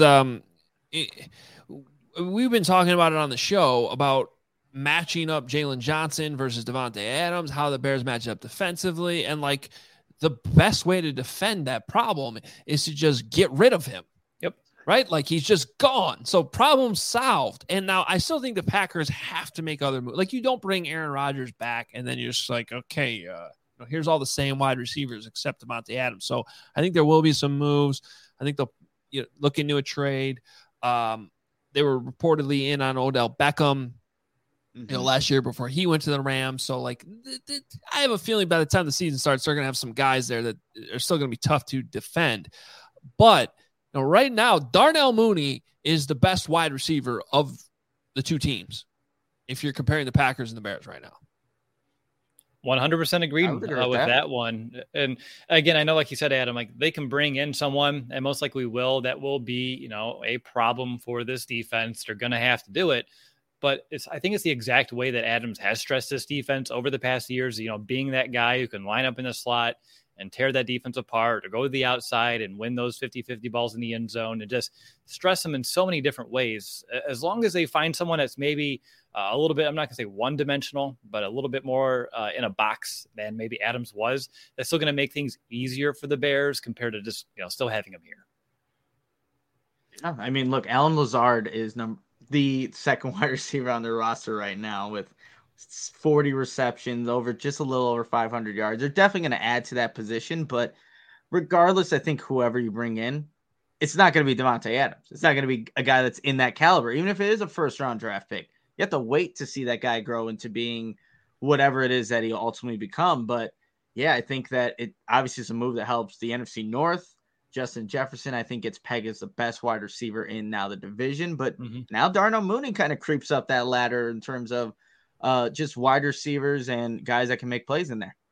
we've been talking about it on the show about matching up Jalen Johnson versus Davante Adams, how the Bears match up defensively, and like the best way to defend that problem is to just get rid of him. Yep. Right? Like, he's just gone. So problem solved. And now I still think the Packers have to make other moves. Like, you don't bring Aaron Rodgers back and then you're just like, okay, here's all the same wide receivers except Davante Adams. So I think there will be some moves. I think they'll look into a trade. They were reportedly in on Odell Beckham, last year before he went to the Rams. So, like, I have a feeling by the time the season starts, they're going to have some guys there that are still going to be tough to defend. But right now, Darnell Mooney is the best wide receiver of the two teams, if you're comparing the Packers and the Bears right now. 100% agreed with that one. And again, I know, like you said, Adam, like, they can bring in someone, and most likely will, that will be, a problem for this defense. They're going to have to do it. But I think it's the exact way that Adams has stressed this defense over the past years, being that guy who can line up in the slot and tear that defense apart, or go to the outside and win those 50-50 balls in the end zone, and just stress them in so many different ways. As long as they find someone that's maybe a little bit, I'm not going to say one-dimensional, but a little bit more in a box than maybe Adams was, that's still going to make things easier for the Bears compared to just, still having him here. Yeah, I mean, look, Allen Lazard is the second wide receiver on their roster right now with 40 receptions, over just a little over 500 yards. They're definitely going to add to that position, but regardless, I think whoever you bring in, it's not going to be Devontae Adams. It's not going to be a guy that's in that caliber, even if it is a first-round draft pick. You have to wait to see that guy grow into being whatever it is that he'll ultimately become. But yeah, I think that it obviously is a move that helps the NFC North. Justin Jefferson, I think, gets pegged as the best wide receiver in now the division. But now Darnell Mooney kind of creeps up that ladder in terms of just wide receivers and guys that can make plays in there.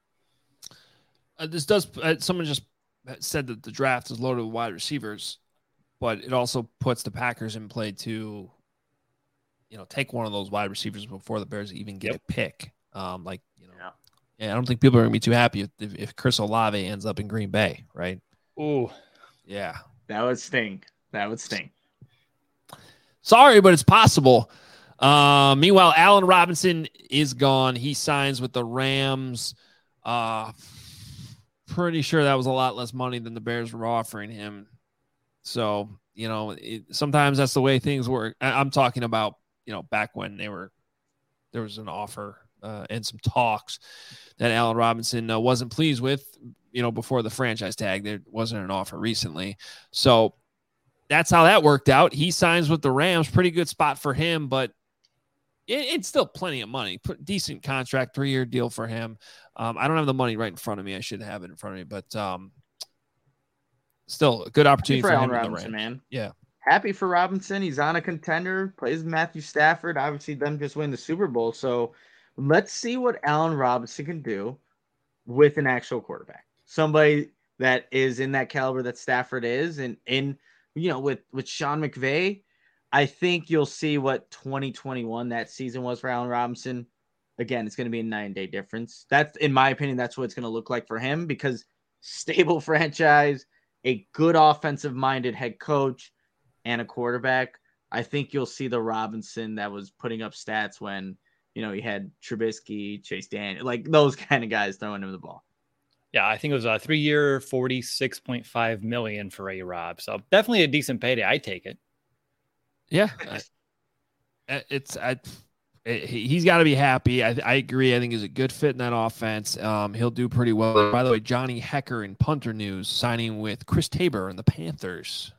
Someone just said that the draft is loaded with wide receivers, but it also puts the Packers in play to, take one of those wide receivers before the Bears even get a pick. I don't think people are going to be too happy if Chris Olave ends up in Green Bay, right? Ooh. Yeah. That would sting. Sorry, but it's possible. Meanwhile, Allen Robinson is gone. He signs with the Rams. Pretty sure that was a lot less money than the Bears were offering him. So, sometimes that's the way things work. I'm talking about, back when there was an offer and some talks that Allen Robinson wasn't pleased with, before the franchise tag. There wasn't an offer recently. So that's how that worked out. He signs with the Rams. Pretty good spot for him, but it's still plenty of money. Decent contract, 3-year deal for him. I don't have the money right in front of me. I should have it in front of me, but still a good opportunity for Allen him. Robinson, man. Yeah. Happy for Robinson. He's on a contender, plays with Matthew Stafford. Obviously, them just win the Super Bowl. So let's see what Allen Robinson can do with an actual quarterback. Somebody that is in that caliber that Stafford is. And with Sean McVay, I think you'll see what 2021 that season was for Allen Robinson. Again, it's going to be a 9-day difference. That's, in my opinion, that's what it's going to look like for him, because stable franchise, a good offensive-minded head coach, and a quarterback. I think you'll see the Robinson that was putting up stats when, he had Trubisky, Chase Daniel, like those kind of guys throwing him the ball. Yeah, I think it was a 3-year, $46.5 million for A-Rob. So definitely a decent payday. I take it. Yeah, he's got to be happy. I agree. I think he's a good fit in that offense. He'll do pretty well. By the way, Johnny Hecker in punter news, signing with Chris Tabor and the Panthers.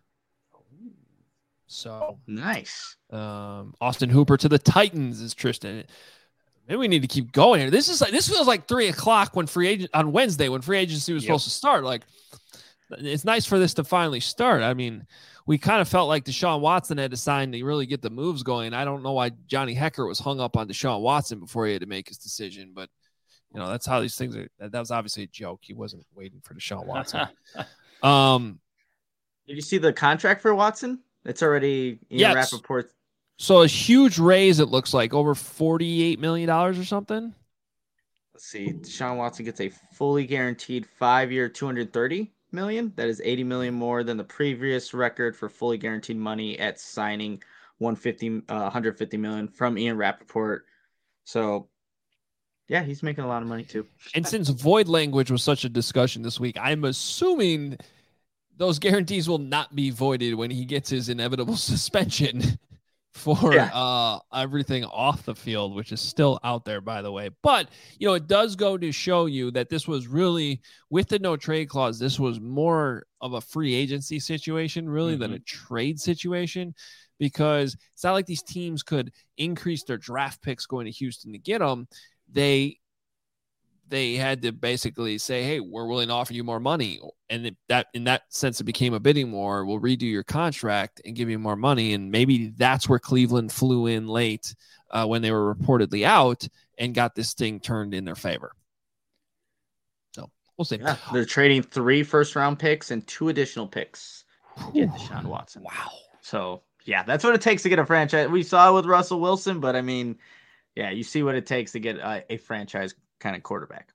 So nice. Austin Hooper to the Titans is Tristan. Maybe we need to keep going here. This feels like 3:00 on Wednesday when free agency was supposed to start. Like, it's nice for this to finally start. I mean, we kind of felt like Deshaun Watson had to sign to really get the moves going. I don't know why Johnny Hecker was hung up on Deshaun Watson before he had to make his decision, but that's how these things are. That was obviously a joke. He wasn't waiting for Deshaun Watson. Did you see the contract for Watson? It's already Rappaport. So a huge raise, it looks like, over $48 million or something. Let's see. Deshaun Watson gets a fully guaranteed 5-year, $230 million. That is $80 million more than the previous record for fully guaranteed money at signing, $150 million from Ian Rappaport. So, yeah, he's making a lot of money too. And since void language was such a discussion this week, I'm assuming those guarantees will not be voided when he gets his inevitable suspension for everything off the field, which is still out there, by the way. But, it does go to show you that this was really, with the no trade clause, this was more of a free agency situation, really, than a trade situation, because it's not like these teams could increase their draft picks going to Houston to get them. They had to basically say, hey, we're willing to offer you more money. And that in that sense, it became a bidding war. We'll redo your contract and give you more money. And maybe that's where Cleveland flew in late when they were reportedly out and got this thing turned in their favor. So we'll see. Yeah, they're trading 3 first-round picks and 2 additional picks to get Deshaun Watson. Wow. So, yeah, that's what it takes to get a franchise. We saw it with Russell Wilson, but, I mean, yeah, you see what it takes to get a franchise kind of quarterback.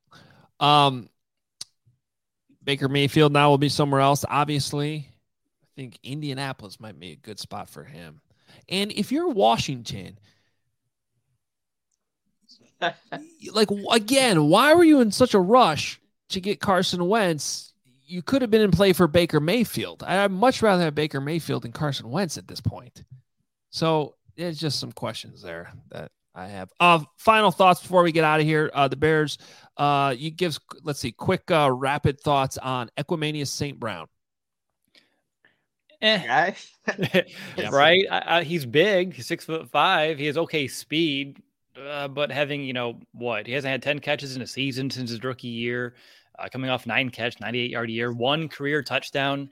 Baker Mayfield now will be somewhere else. Obviously, I think Indianapolis might be a good spot for him. And if you're Washington, like, again, why were you in such a rush to get Carson Wentz? You could have been in play for Baker Mayfield. I'd much rather have Baker Mayfield than Carson Wentz at this point. So there's just some questions there that I have. Final thoughts before we get out of here. The Bears, let's see, quick rapid thoughts on Equanimeous St. Brown. Guy. Right. He's big. He's 6'5". He has okay speed, but having, he hasn't had 10 catches in a season since his rookie year, coming off 9 catch, 98-yard year, 1 career touchdown.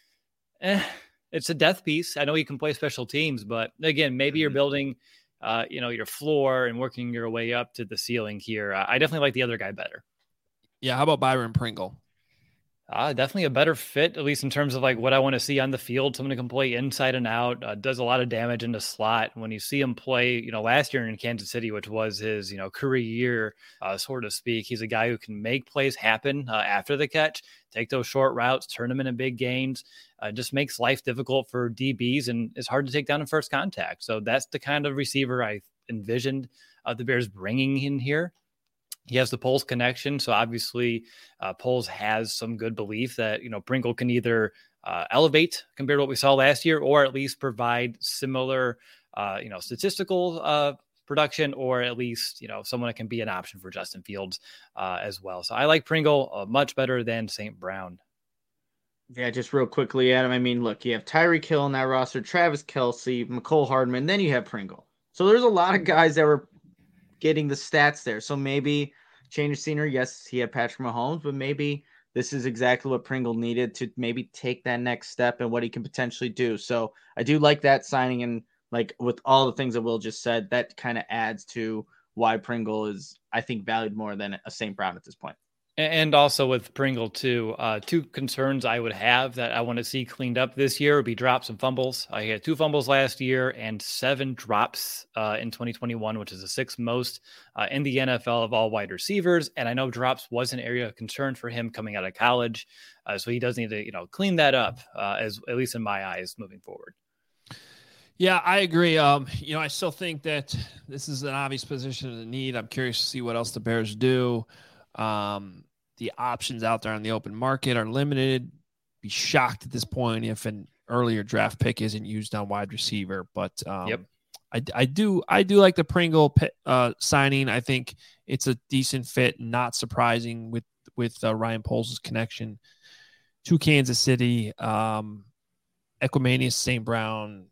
It's a death piece. I know you can play special teams, but again, maybe you're building, your floor and working your way up to the ceiling here. I definitely like the other guy better. Yeah. How about Byron Pringle? Definitely a better fit, at least in terms of like what I want to see on the field. Someone who can play inside and out, does a lot of damage in the slot. When you see him play, last year in Kansas City, which was his, career year, so to speak, he's a guy who can make plays happen after the catch, take those short routes, turn them into big gains, just makes life difficult for DBs and is hard to take down in first contact. So that's the kind of receiver I envisioned the Bears bringing in here. He has the Poles connection. So obviously Poles has some good belief that, Pringle can either elevate compared to what we saw last year, or at least provide similar, statistical production, or at least, someone that can be an option for Justin Fields as well. So I like Pringle much better than St. Brown. Yeah, just real quickly, Adam. I mean, look, you have Tyreek Hill in that roster, Travis Kelce, McCole Hardman, then you have Pringle. So there's a lot of guys that were getting the stats there. So maybe change of scenery. Yes, he had Patrick Mahomes, but maybe this is exactly what Pringle needed to maybe take that next step and what he can potentially do. So I do like that signing, and like with all the things that Will just said, that kind of adds to why Pringle is, I think, valued more than a St. Brown at this point. And also with Pringle too, 2 concerns I would have that I want to see cleaned up this year would be drops and fumbles. He had 2 fumbles last year and 7 drops in 2021, which is the 6th most in the NFL of all wide receivers. And I know drops was an area of concern for him coming out of college, so he does need to clean that up, as at least in my eyes, moving forward. Yeah, I agree. I still think that this is an obvious position of need. I'm curious to see what else the Bears do. The options out there on the open market are limited. Be shocked at this point if an earlier draft pick isn't used on wide receiver, but I do like the Pringle signing. I think it's a decent fit, not surprising with Ryan Poles' connection to Kansas City. Equanimeous St. Brown,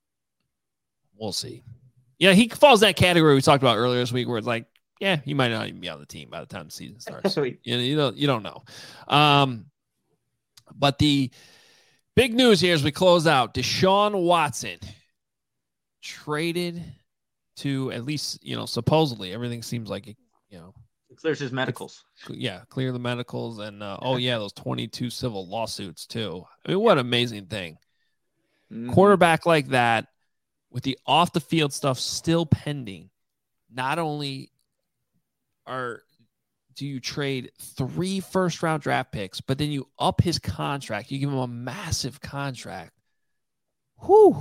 we'll see. Yeah, he falls in that category we talked about earlier this week, where it's like, yeah, he might not even be on the team by the time the season starts. You don't know. But the big news here as we close out, Deshaun Watson traded to, at least, supposedly everything seems like it, it clears his medicals. Yeah, clear the medicals, and those 22 civil lawsuits too. I mean, what an amazing thing. Mm-hmm. Quarterback like that with the off the field stuff still pending. Not only do you trade 3 first-round draft picks, but then you up his contract. You give him a massive contract. Whew.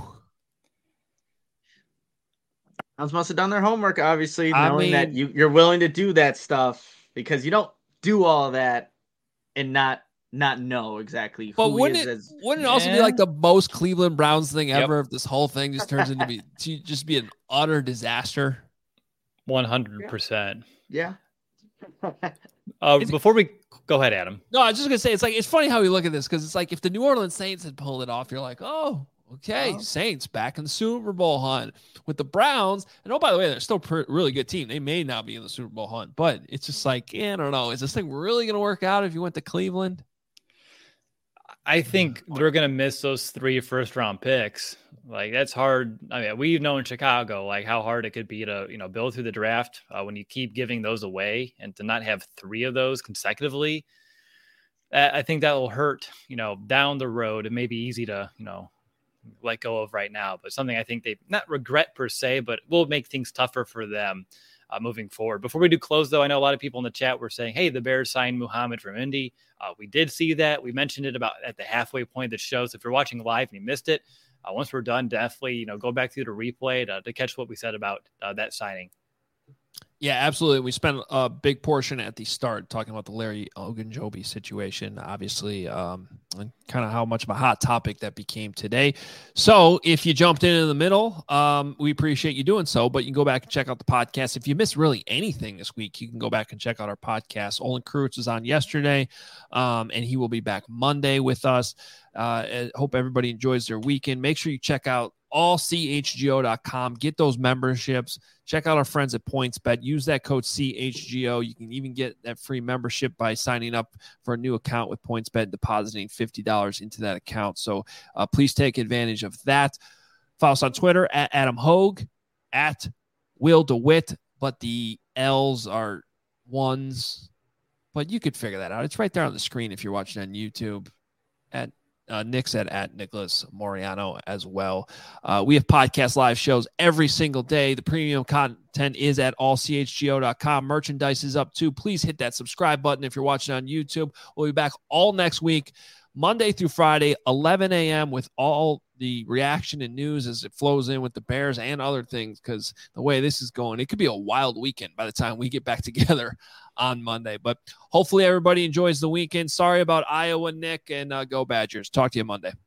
Browns must have done their homework, obviously, knowing that you're willing to do that stuff, because you don't do all that and not know exactly who wouldn't he is. Wouldn't it also be like the most Cleveland Browns thing ever if this whole thing just turns into be an utter disaster? 100%. Yeah. Before we go ahead, Adam. No, I was just gonna say it's funny how we look at this, because it's like if the New Orleans Saints had pulled it off, you're like, oh, okay, Saints back in the Super Bowl hunt. With the Browns, and by the way, they're still a really good team. They may not be in the Super Bowl hunt, but it's just like, I don't know. Is this thing really gonna work out if you went to Cleveland? I think they're going to miss those 3 first-round picks. Like, that's hard. I mean, we've known in Chicago, like, how hard it could be to, build through the draft when you keep giving those away, and to not have 3 of those consecutively. I think that will hurt, down the road. It may be easy to, let go of right now, but something I think they not regret per se, but will make things tougher for them moving forward. Before we do close, though, I know a lot of people in the chat were saying, hey, the Bears signed Muhammad from Indy. We did see that. We mentioned it about at the halfway point of the show. So if you're watching live and you missed it, once we're done, definitely, go back through the replay to catch what we said about that signing. Yeah, absolutely. We spent a big portion at the start talking about the Larry Ogunjobi situation. Obviously, and kind of how much of a hot topic that became today. So if you jumped in the middle, we appreciate you doing so, but you can go back and check out the podcast. If you missed really anything this week, you can go back and check out our podcast. Olin Kreutz was on yesterday, and he will be back Monday with us. I hope everybody enjoys their weekend. Make sure you check out allchgo.com. Get those memberships. Check out our friends at PointsBet. Use that code CHGO. You can even get that free membership by signing up for a new account with PointsBet and depositing $50 into that account. So please take advantage of that. Follow us on Twitter at Adam Hogue, at Will DeWitt, but the L's are ones. But you could figure that out. It's right there on the screen if you're watching on YouTube. At Nick said at Nicholas Moriano as well. We have podcast live shows every single day. The premium content is at allchgo.com. Merchandise is up too. Please hit that subscribe button if you're watching on YouTube. We'll be back all next week, Monday through Friday, 11 a.m. with all the reaction and news as it flows in with the Bears and other things, because the way this is going, it could be a wild weekend by the time we get back together on Monday. But hopefully everybody enjoys the weekend. Sorry about Iowa, Nick, and go Badgers. Talk to you Monday.